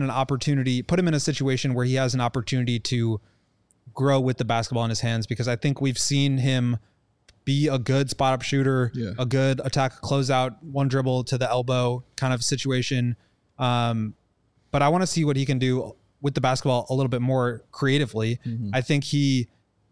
a situation where he has an opportunity to grow with the basketball in his hands? Because I think we've seen him be a good spot up shooter, a good attack closeout, one dribble to the elbow kind of situation. But I want to see what he can do with the basketball a little bit more creatively. Mm-hmm. I think he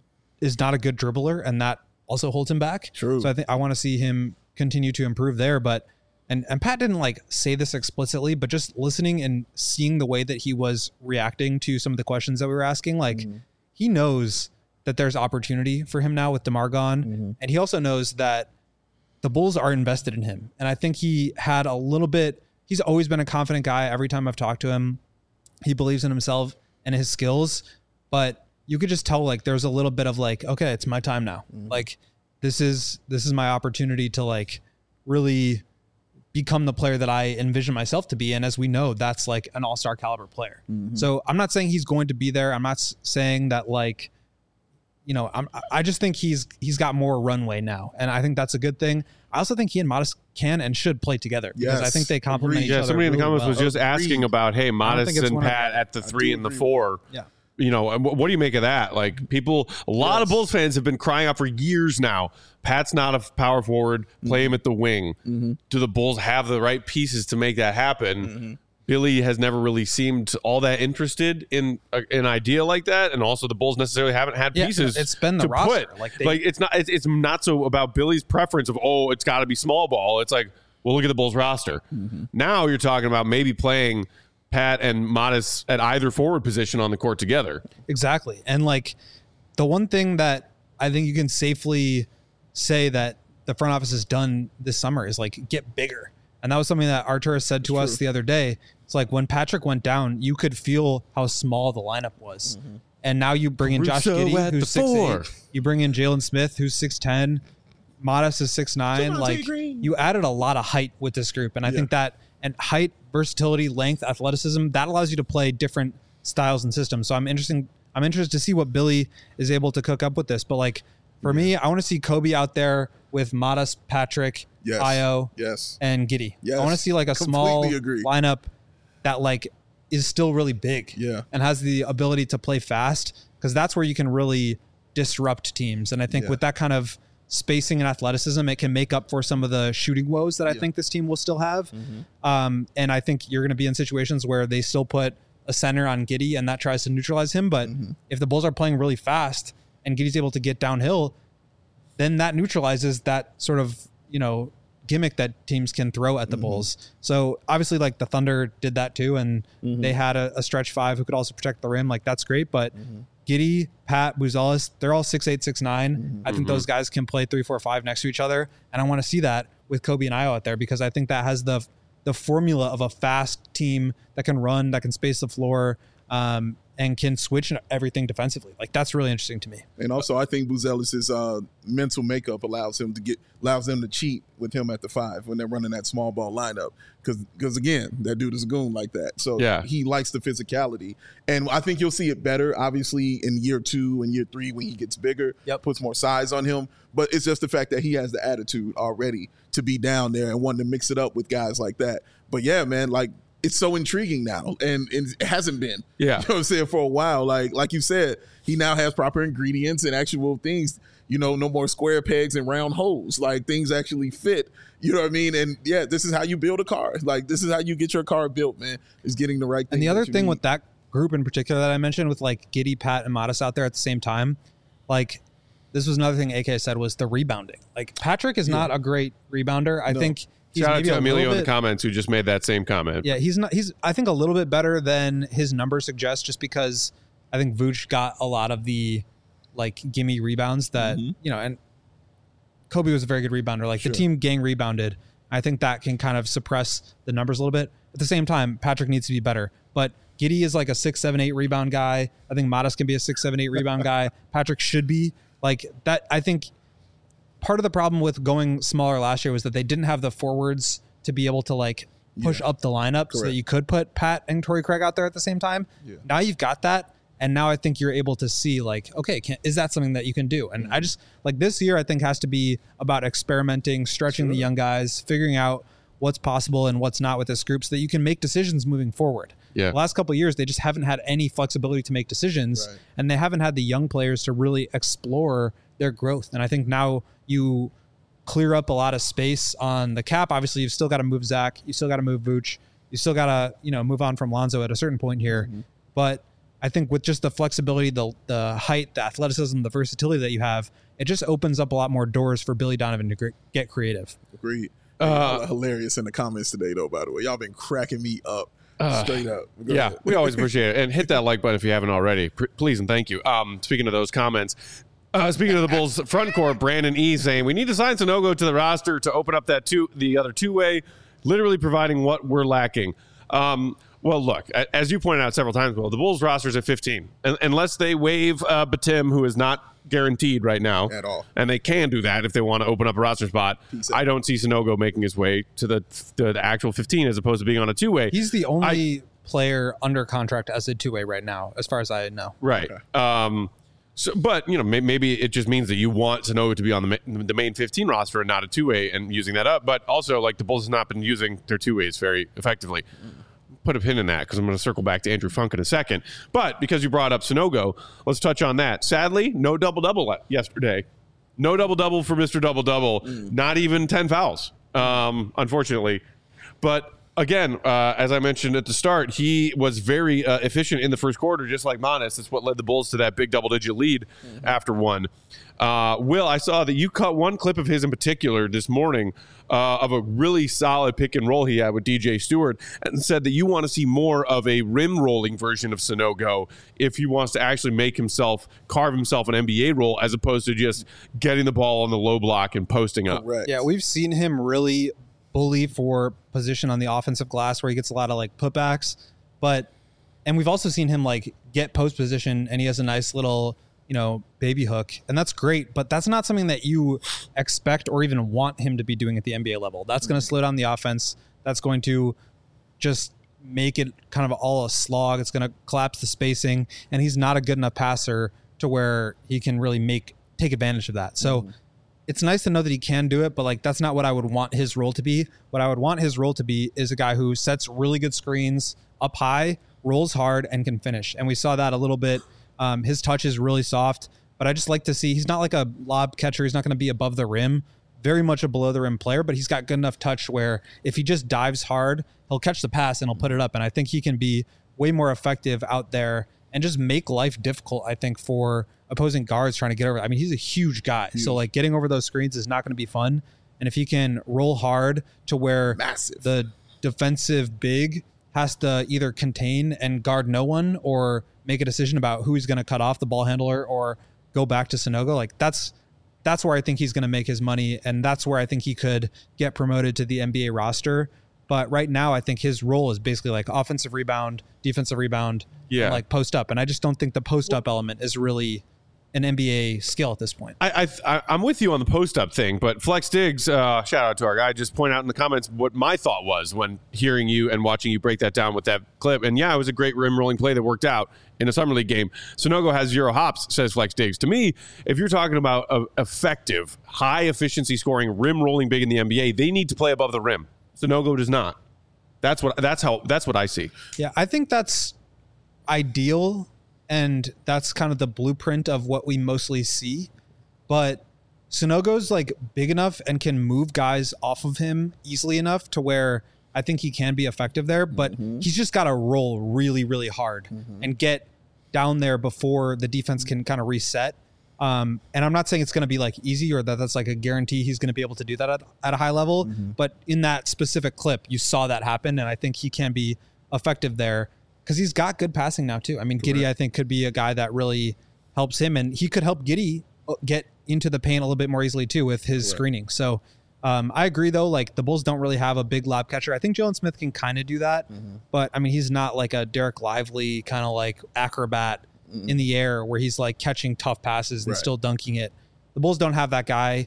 is not a good dribbler, and that also holds him back. True. So I want to see him continue to improve there. But and Pat didn't like say this explicitly, but just listening and seeing the way that he was reacting to some of the questions that we were asking, like he knows that there's opportunity for him now with DeMar gone. And he also knows that the Bulls are invested in him. And I think he had a little bit, he's always been a confident guy. Every time I've talked to him, he believes in himself and his skills, but you could just tell like, there's a little bit of like, okay, it's my time now. Like this is my opportunity to like really become the player that I envision myself to be. And as we know, that's like an all-star caliber player. So I'm not saying he's going to be there. I'm not saying that like, you know, I just think he's got more runway now, and I think that's a good thing. I also think he and Modest can and should play together because I think they complement each other. Somebody in the comments well. was just asking about, hey, Modest and Pat at the 3 and the 4. Yeah. You know, what do you make of that? Like a lot of Bulls fans have been crying out for years now. Pat's not a power forward. Play him at the wing. Do the Bulls have the right pieces to make that happen? Billy has never really seemed all that interested in an idea like that, and also the Bulls necessarily haven't had pieces. It's been the roster. It's not so about Billy's preference of it's got to be small ball. It's like, well, look at the Bulls roster. Now you're talking about maybe playing Pat and Modest at either forward position on the court together. Exactly, and like the one thing that I think you can safely say that the front office has done this summer is like get bigger. And that was something that Arturas said to us the other day. It's like when Patrick went down, you could feel how small the lineup was. And now you bring in Josh Giddey, who's 6'8". You bring in Jalen Smith, who's 6'10". Modest is 6'9". Like you added a lot of height with this group. And I think that, and height, versatility, length, athleticism, that allows you to play different styles and systems. So I'm interested to see what Billy is able to cook up with this. But like for me, I want to see Kobe out there with Modest, Patrick, Io, and Giddey. I want to see like a small lineup that like is still really big and has the ability to play fast, because that's where you can really disrupt teams. And I think with that kind of spacing and athleticism, it can make up for some of the shooting woes that I think this team will still have. And I think you're going to be in situations where they still put a center on Giddey and that tries to neutralize him. But if the Bulls are playing really fast and Giddey's able to get downhill, then that neutralizes that sort of, gimmick that teams can throw at the Bulls. So obviously, like, the Thunder did that too, and they had a stretch five who could also protect the rim. Like, that's great. But Giddey, Pat, Buzelis, they're all 6'8", 6'9". I think those guys can play 3, 4, 5 next to each other. And I want to see that with Kobe and Ayo out there, because I think that has the formula of a fast team that can run, that can space the floor, and can switch everything defensively. Like, that's really interesting to me. And also, I think Buzelis' mental makeup allows them to cheat with him at the 5 when they're running that small ball lineup. Because again, that dude is a goon like that. So he likes the physicality. And I think you'll see it better, obviously, in year 2 and year 3 when he gets bigger, puts more size on him. But it's just the fact that he has the attitude already to be down there and wanting to mix it up with guys like that. But yeah, man, like, it's so intriguing now, and it hasn't been. You know what I'm saying, for a while. Like you said, he now has proper ingredients and actual things. No more square pegs and round holes. Like, things actually fit. You know what I mean? And yeah, this is how you build a car. Like, this is how you get your car built, man. Is getting the right thing. And the other thing with that group in particular that I mentioned, with like Giddey, Pat, and Modest out there at the same time, like, this was another thing AK said, was the rebounding. Like, Patrick is not a great rebounder. I think. Shout out to Emilio in the comments who just made that same comment. Yeah, he's I think a little bit better than his numbers suggest, just because I think Vooch got a lot of the, like, gimme rebounds that, and Kobe was a very good rebounder. Like, the team gang rebounded. I think that can kind of suppress the numbers a little bit. At the same time, Patrick needs to be better. But Giddey is like a 6, 7, 8 rebound guy. I think Modest can be a 6, 7, 8 rebound guy. Patrick should be like that. I think part of the problem with going smaller last year was that they didn't have the forwards to be able to, like, push up the lineup so that you could put Pat and Torrey Craig out there at the same time. Now you've got that. And now I think you're able to see, like, okay, is that something that you can do? And I just, like, this year I think has to be about experimenting, stretching the young guys, figuring out what's possible and what's not with this group so that you can make decisions moving forward. The last couple of years, they just haven't had any flexibility to make decisions, and they haven't had the young players to really explore their growth. And I think now you clear up a lot of space on the cap. Obviously, you've still got to move Zach. You still got to move Vooch. You still got to, move on from Lonzo at a certain point here. But I think with just the flexibility, the height, the athleticism, the versatility that you have, it just opens up a lot more doors for Billy Donovan to get creative. Agreed. Y'all are hilarious in the comments today, though, by the way. Y'all been cracking me up. Straight up. Go ahead. We always appreciate it. And hit that like button if you haven't already. Please and thank you. Speaking of those comments, speaking of the Bulls front court, Brandon E. saying, we need to sign Sanogo to the roster to open up the other two-way, literally providing what we're lacking. Well, look, as you pointed out several times, Will, the Bulls roster is at 15. Unless they waive Batum, who is not guaranteed right now at all, and they can do that if they want to open up a roster spot. I don't see Sanogo making his way to the actual 15 as opposed to being on a two-way. He's the only player under contract as a two-way right now, as far as I know. Right. Okay. So, but maybe it just means that you want Sanogo to be on the main 15 roster and not a two-way and using that up. But also, like, the Bulls have not been using their two-ways very effectively. Put a pin in that because I'm going to circle back to Andrew Funk in a second. But because you brought up Sanogo, let's touch on that. Sadly, no double-double yesterday. No double-double for Mr. Double-Double. Not even 10 fouls, unfortunately. But again, as I mentioned at the start, he was very efficient in the first quarter, just like Modest. That's what led the Bulls to that big double-digit lead after one. Will, I saw that you cut one clip of his in particular this morning of a really solid pick and roll he had with DJ Stewart, and said that you want to see more of a rim rolling version of Sanogo if he wants to actually carve himself an NBA role as opposed to just getting the ball on the low block and posting up. Correct. Yeah, we've seen him really bully for position on the offensive glass where he gets a lot of, like, putbacks, and we've also seen him, like, get post position and he has a nice little, baby hook, and that's great, but that's not something that you expect or even want him to be doing at the NBA level. That's going to slow down the offense. That's going to just make it kind of all a slog. It's going to collapse the spacing, and he's not a good enough passer to where he can really take advantage of that. So it's nice to know that he can do it, but, like, that's not what I would want his role to be. What I would want his role to be is a guy who sets really good screens up high rolls hard and can finish. And we saw that a little bit. His touch is really soft, but I just like to see, he's not like a lob catcher. He's not going to be above the rim, very much a below the rim player, but he's got good enough touch where if he just dives hard, he'll catch the pass and he'll put it up. And I think he can be way more effective out there and just make life difficult, I think, for opposing guards trying to get over. I mean, he's a huge guy. So like getting over those screens is not going to be fun. And if he can roll hard to where the defensive big has to either contain and guard no one or make a decision about who he's going to cut off, the ball handler or go back to Sanogo, like that's where I think he's going to make his money. And that's where I think he could get promoted to the NBA roster. But right now, I think his role is basically like offensive rebound, defensive rebound, and like post up. And I just don't think the post up element is really an NBA skill at this point. I'm with you on the post up thing, but Flex Diggs, shout out to our guy, just point out in the comments what my thought was when hearing you and watching you break that down with that clip. And yeah, it was a great rim rolling play that worked out in a summer league game. Sanogo has 0 hops, says Flex Diggs. To me, if you're talking about effective, high efficiency scoring, rim rolling big in the NBA, they need to play above the rim. Sanogo does not. That's what I see. Yeah, I think that's ideal. And that's kind of the blueprint of what we mostly see. But Sanogo's like big enough and can move guys off of him easily enough to where I think he can be effective there. But he's just got to roll really, really hard and get down there before the defense can kind of reset. And I'm not saying it's going to be like easy or that's like a guarantee he's going to be able to do that at a high level. But in that specific clip, you saw that happen. And I think he can be effective there. Because he's got good passing now, too. I mean, Giddey, I think, could be a guy that really helps him. And he could help Giddey get into the paint a little bit more easily, too, with his screening. So I agree, though. Like, the Bulls don't really have a big lob catcher. I think Jalen Smith can kind of do that. But, I mean, he's not like a Derek Lively kind of like acrobat in the air where he's like catching tough passes and still dunking it. The Bulls don't have that guy.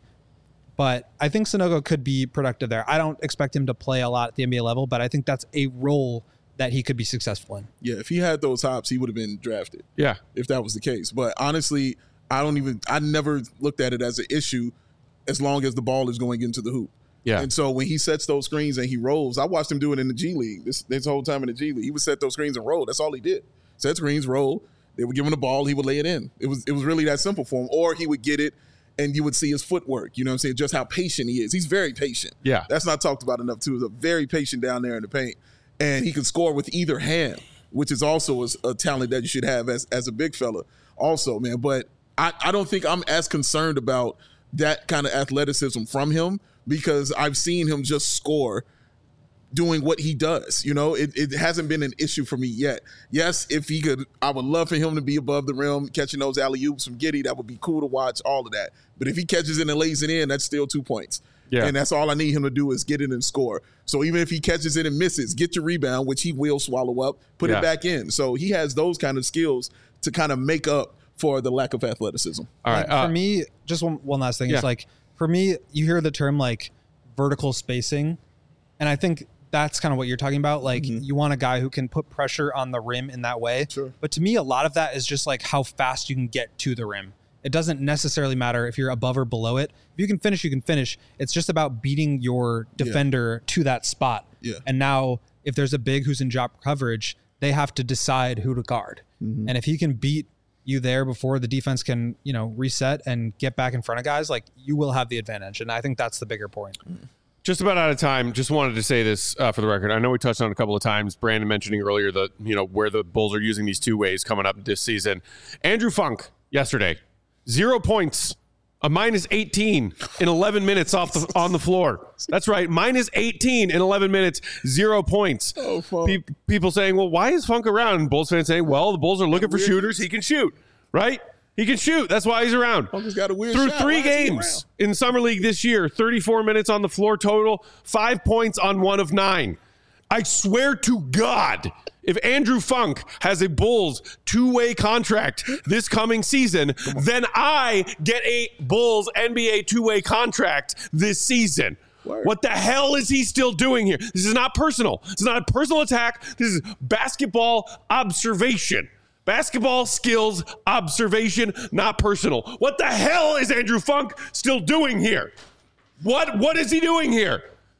But I think Sanogo could be productive there. I don't expect him to play a lot at the NBA level, but I think that's a role that he could be successful in. Yeah, if he had those hops, he would have been drafted. Yeah. If that was the case. But honestly, I never looked at it as an issue as long as the ball is going into the hoop. Yeah. And so when he sets those screens and he rolls, I watched him do it in the G League this whole time in the G League. He would set those screens and roll. That's all he did. Set screens, roll. They would give him the ball. He would lay it in. It was really that simple for him. Or he would get it and you would see his footwork. You know what I'm saying? Just how patient he is. He's very patient. Yeah. That's not talked about enough, too. He's very patient down there in the paint. And he can score with either hand, which is also a talent that you should have as a big fella also, man. But I don't think I'm as concerned about that kind of athleticism from him because I've seen him just score doing what he does. You know, it hasn't been an issue for me yet. Yes, if he could, I would love for him to be above the rim, catching those alley-oops from Giddey. That would be cool to watch, all of that. But if he catches it and lays it in, that's still 2 points. Yeah. And that's all I need him to do is get it and score. So even if he catches it and misses, get your rebound, which he will swallow up, put it back in. So he has those kind of skills to kind of make up for the lack of athleticism. All right. For me, just one last thing. It's like, for me, you hear the term like vertical spacing, and I think that's kind of what you're talking about. Like you want a guy who can put pressure on the rim in that way. Sure. But to me, a lot of that is just like how fast you can get to the rim. It doesn't necessarily matter if you're above or below it. If you can finish, you can finish. It's just about beating your defender to that spot. Yeah. And now if there's a big who's in drop coverage, they have to decide who to guard. And if he can beat you there before the defense can, reset and get back in front of guys, like you will have the advantage. And I think that's the bigger point. Just about out of time. Just wanted to say this for the record. I know we touched on it a couple of times. Brandon mentioning earlier that, where the Bulls are using these two ways coming up this season. Andrew Funk yesterday, 0 points, a minus 18 in 11 minutes on the floor. That's right, minus 18 in 11 minutes, 0 points. Oh, Funk. People saying, well, why is Funk around? Bulls fans saying, well, the Bulls are looking for shooters. He can shoot, right? He can shoot. That's why he's around. Funk has got a weird Through shot. 3 games in Summer League this year, 34 minutes on the floor total, 5 points on 1 of 9. I swear to God, if Andrew Funk has a Bulls 2-way contract this coming season, then I get a Bulls NBA 2-way contract this season. Word. What the hell is he still doing here? This is not personal. This is not a personal attack. This is basketball observation. Basketball skills observation, not personal. What the hell is Andrew Funk still doing here? What is he doing here?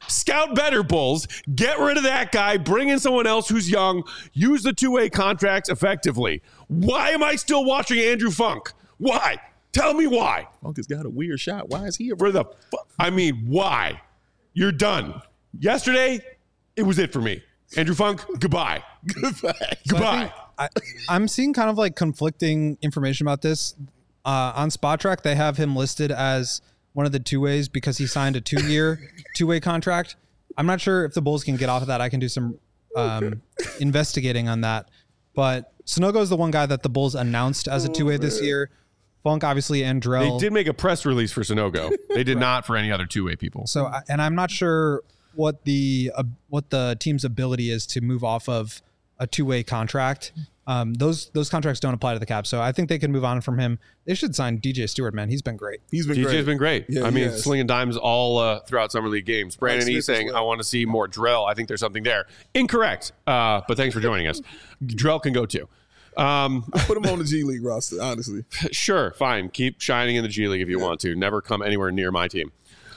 Scout better, Bulls. Get rid of that guy. Bring in someone else who's young. Use the two-way contracts effectively. Why am I still watching Andrew Funk? Why? Tell me why. Funk has got a weird shot. Why is he a why? You're done. Yesterday, it was it for me. Andrew Funk, goodbye. Goodbye. I'm seeing kind of like conflicting information about this. On Spot Track, they have him listed as one of the two-ways because he signed a 2-year two-way contract. I'm not sure if the Bulls can get off of that. I can do some investigating on that. But Sanogo is the one guy that the Bulls announced as a two-way this year. Funk, obviously, and Drell. They did make a press release for Sanogo. They did not for any other two-way people. So, and I'm not sure what the team's ability is to move off of a two-way contract. Those contracts don't apply to the Caps, so I think they can move on from him. They should sign DJ Stewart, man. He's been great. DJ's been great. Yeah, I mean, slinging dimes all throughout Summer League games. Brandon E saying, I want to see more Drell. I think there's something there. Incorrect, but thanks for joining us. Drell can go too. I put him on the G League roster, honestly. Sure, fine. Keep shining in the G League if you want to. Never come anywhere near my team.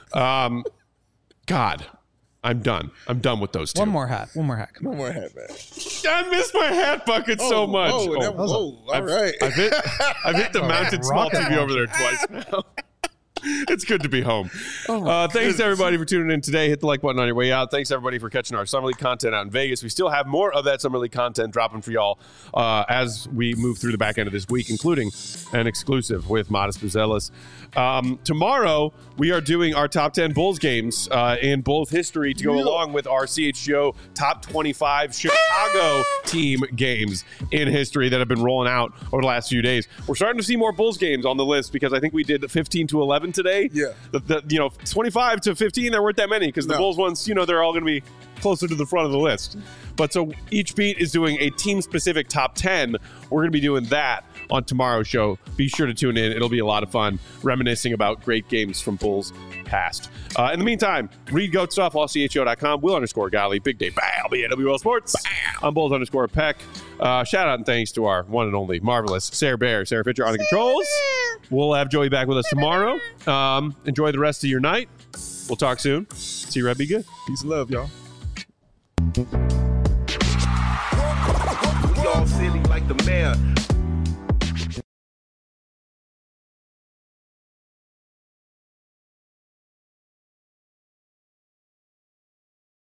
God, I'm done. I'm done with those two. One more hat. One more hat, man. I miss my hat bucket so much. All right. I've hit the mounted small TV over there twice now. It's good to be home. Thanks to everybody for tuning in today. Hit the like button on your way out. Thanks everybody for catching our Summer League content out in Vegas. We still have more of that Summer League content dropping for y'all as we move through the back end of this week, including an exclusive with Modest Buzelis. Tomorrow, we are doing our top 10 Bulls games in Bulls history to go along with our CHGO top 25 Chicago team games in history that have been rolling out over the last few days. We're starting to see more Bulls games on the list because I think we did 15 to 11 today. Yeah. 25 to 15, there weren't that many because the Bulls ones, they're all going to be closer to the front of the list. But so each beat is doing a team-specific top 10. We're going to be doing that on tomorrow's show. Be sure to tune in. It'll be a lot of fun reminiscing about great games from Bulls past. In the meantime, read GOAT stuff, allcho.com, Will_Gottlieb, Big Day I'll be at WL Sports. I'm Bulls_Peck. Shout out and thanks to our one and only marvelous Sarah Fisher on the controls. We'll have Joey back with us tomorrow. Enjoy the rest of your night. We'll talk soon. See you, Red. Be good. Peace and love, y'all. We all silly like the mayor.